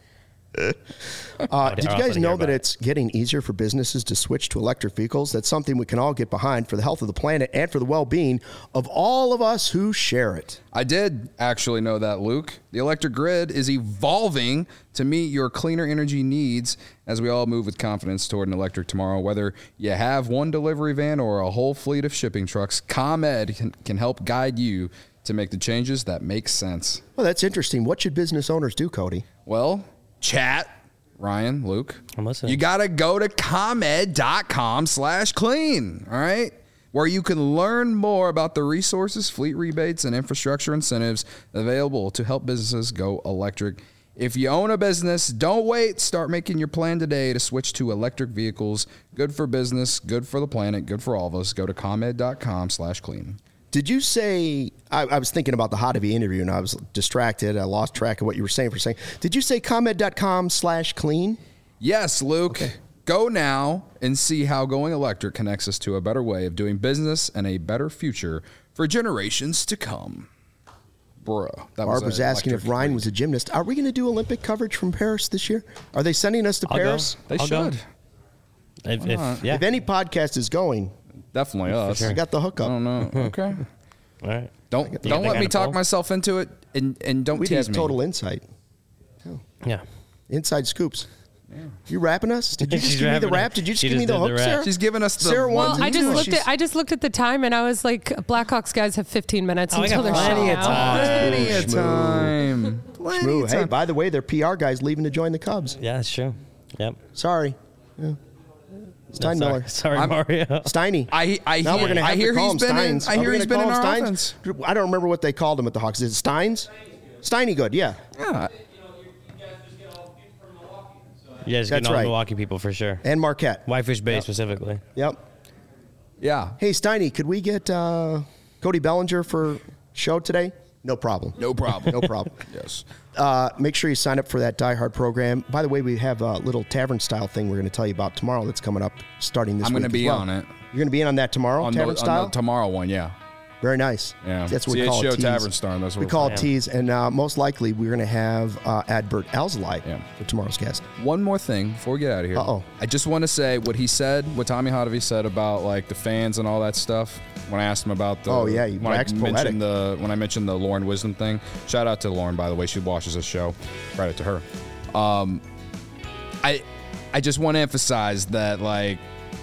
Uh, did you I'll guys also know hear that about it. it's getting easier for businesses to switch to electric vehicles? That's something we can all get behind for the health of the planet and for the well-being of all of us who share it. I did actually know that, Luke. The electric grid is evolving to meet your cleaner energy needs as we all move with confidence toward an electric tomorrow. Whether you have one delivery van or a whole fleet of shipping trucks, ComEd can, can help guide you to make the changes that make sense. Well, that's interesting. What should business owners do, Cody? Well, chat, Ryan, Luke. I'm listening. You got to go to ComEd.com slash clean, all right? Where you can learn more about the resources, fleet rebates, and infrastructure incentives available to help businesses go electric. If you own a business, don't wait. Start making your plan today to switch to electric vehicles. Good for business, good for the planet, good for all of us. Go to ComEd.com slash clean. Did you say, I, I was thinking about the Hotovy interview and I was distracted. I lost track of what you were saying for a second. Did you say ComEd.com slash clean? Yes, Luke. Go now and see how going electric connects us to a better way of doing business and a better future for generations to come. Bruh. That Barb was an asking if electric Ryan read. was a gymnast. Are we going to do Olympic coverage from Paris this year? Are they sending us to I'll go. Paris? They I'll go. should. If, if, yeah. If any podcast is going, Definitely us. I got the I hookup. don't know. Okay. All right. Don't You don't think let I me got a talk poll? myself into it, and and don't We'd tease have me. total insight. Yeah. Inside scoops. You rapping us? Did you just She's give me the rapping it. rap? Did you just She give me just the did hook, the rap. Sarah? She's giving us the Sarah ones wants Well, I and just twos. looked She's- at I just looked at the time and I was like, Blackhawks guys have fifteen minutes Oh, we until got they're plenty shut of out. time. plenty of Schmoo. time. Plenty Schmoo. of Hey, time. by the way, their P R guy's leaving to join the Cubs. Yeah, that's true. Yep. Sorry. Yeah. Steinmiller. Sorry, sorry I'm- Mario. Steiny. I I now hear, we're gonna have I hear to call he's him been in, Steins. I Are we hear he's gonna been in call our him offense. Steins? I don't remember what they called him at the Hawks. Is it Steins? Steiny good, yeah. Yeah. Yeah, just That's getting all right. the Milwaukee people for sure. And Marquette. Whitefish Bay specifically. Yep. Yeah. Hey, Steiny, could we get uh, Cody Bellinger for show today? No problem. No problem. No problem. Yes. Uh, make sure you sign up for that Die Hard program. By the way, we have a little tavern style thing we're going to tell you about tomorrow that's coming up starting this I'm week. going to be as well. on it. You're going to be in on that tomorrow, On tavern the, style? on the tomorrow one, yeah. Very nice. Yeah. That's what we C H call Show it. Tease. Tavern Star. That's what we we're call it calling it. tease, and uh, most likely we're going to have uh, Adbert Alzali Yeah. for tomorrow's guest. One more thing before we get out of here. Uh-oh. I just want to say what he said, what Tommy Hotovy said about like the fans and all that stuff. When I asked him about the Oh, yeah, he when I waxed poetic. mentioned the when I mentioned the Lauren Wisdom thing. Shout out to Lauren, by the way. She watches this show. Credit to her. Um, I I just want to emphasize that like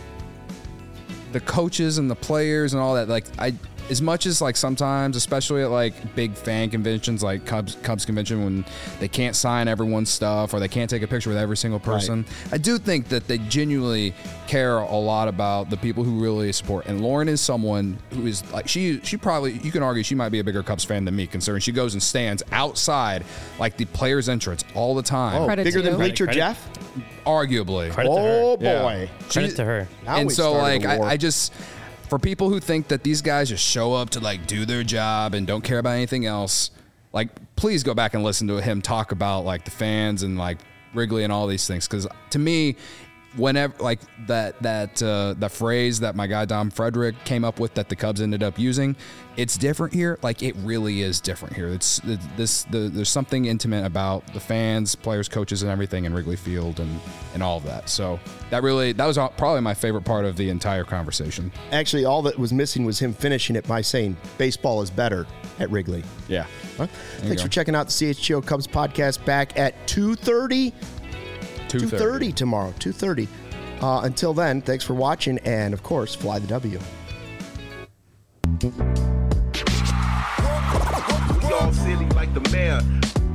the coaches and the players and all that, like I as much as like sometimes, especially at like big fan conventions like Cubs Cubs convention, when they can't sign everyone's stuff or they can't take a picture with every single person, I do think that they genuinely care a lot about the people who really support. And Lauren is someone who is like she she probably, you can argue she might be a bigger Cubs fan than me, considering she goes and stands outside like the players' entrance all the time. Oh, Credit bigger to than you. Bleacher Credit- Jeff? Arguably. Credit to her. Oh, Yeah. boy. Credit She- to her. Now and we so started like a war. I, I just for people who think that these guys just show up to like do their job and don't care about anything else, like please go back and listen to him talk about like the fans and like Wrigley and all these things, because to me, whenever like that that uh, the phrase that my guy Dom Frederick came up with that the Cubs ended up using, it's different here. Like it really is different here. It's it, this the, there's something intimate about the fans, players, coaches, and everything in Wrigley Field and and all of that. So that really that was probably my favorite part of the entire conversation. Actually, all that was missing was him finishing it by saying baseball is better at Wrigley. Yeah. Huh? Thanks go. for checking out the C H G O Cubs podcast, back at two thirty. two thirty tomorrow, two thirty. Uh, until then, thanks for watching, and of course, fly the W. We all silly like the mayor.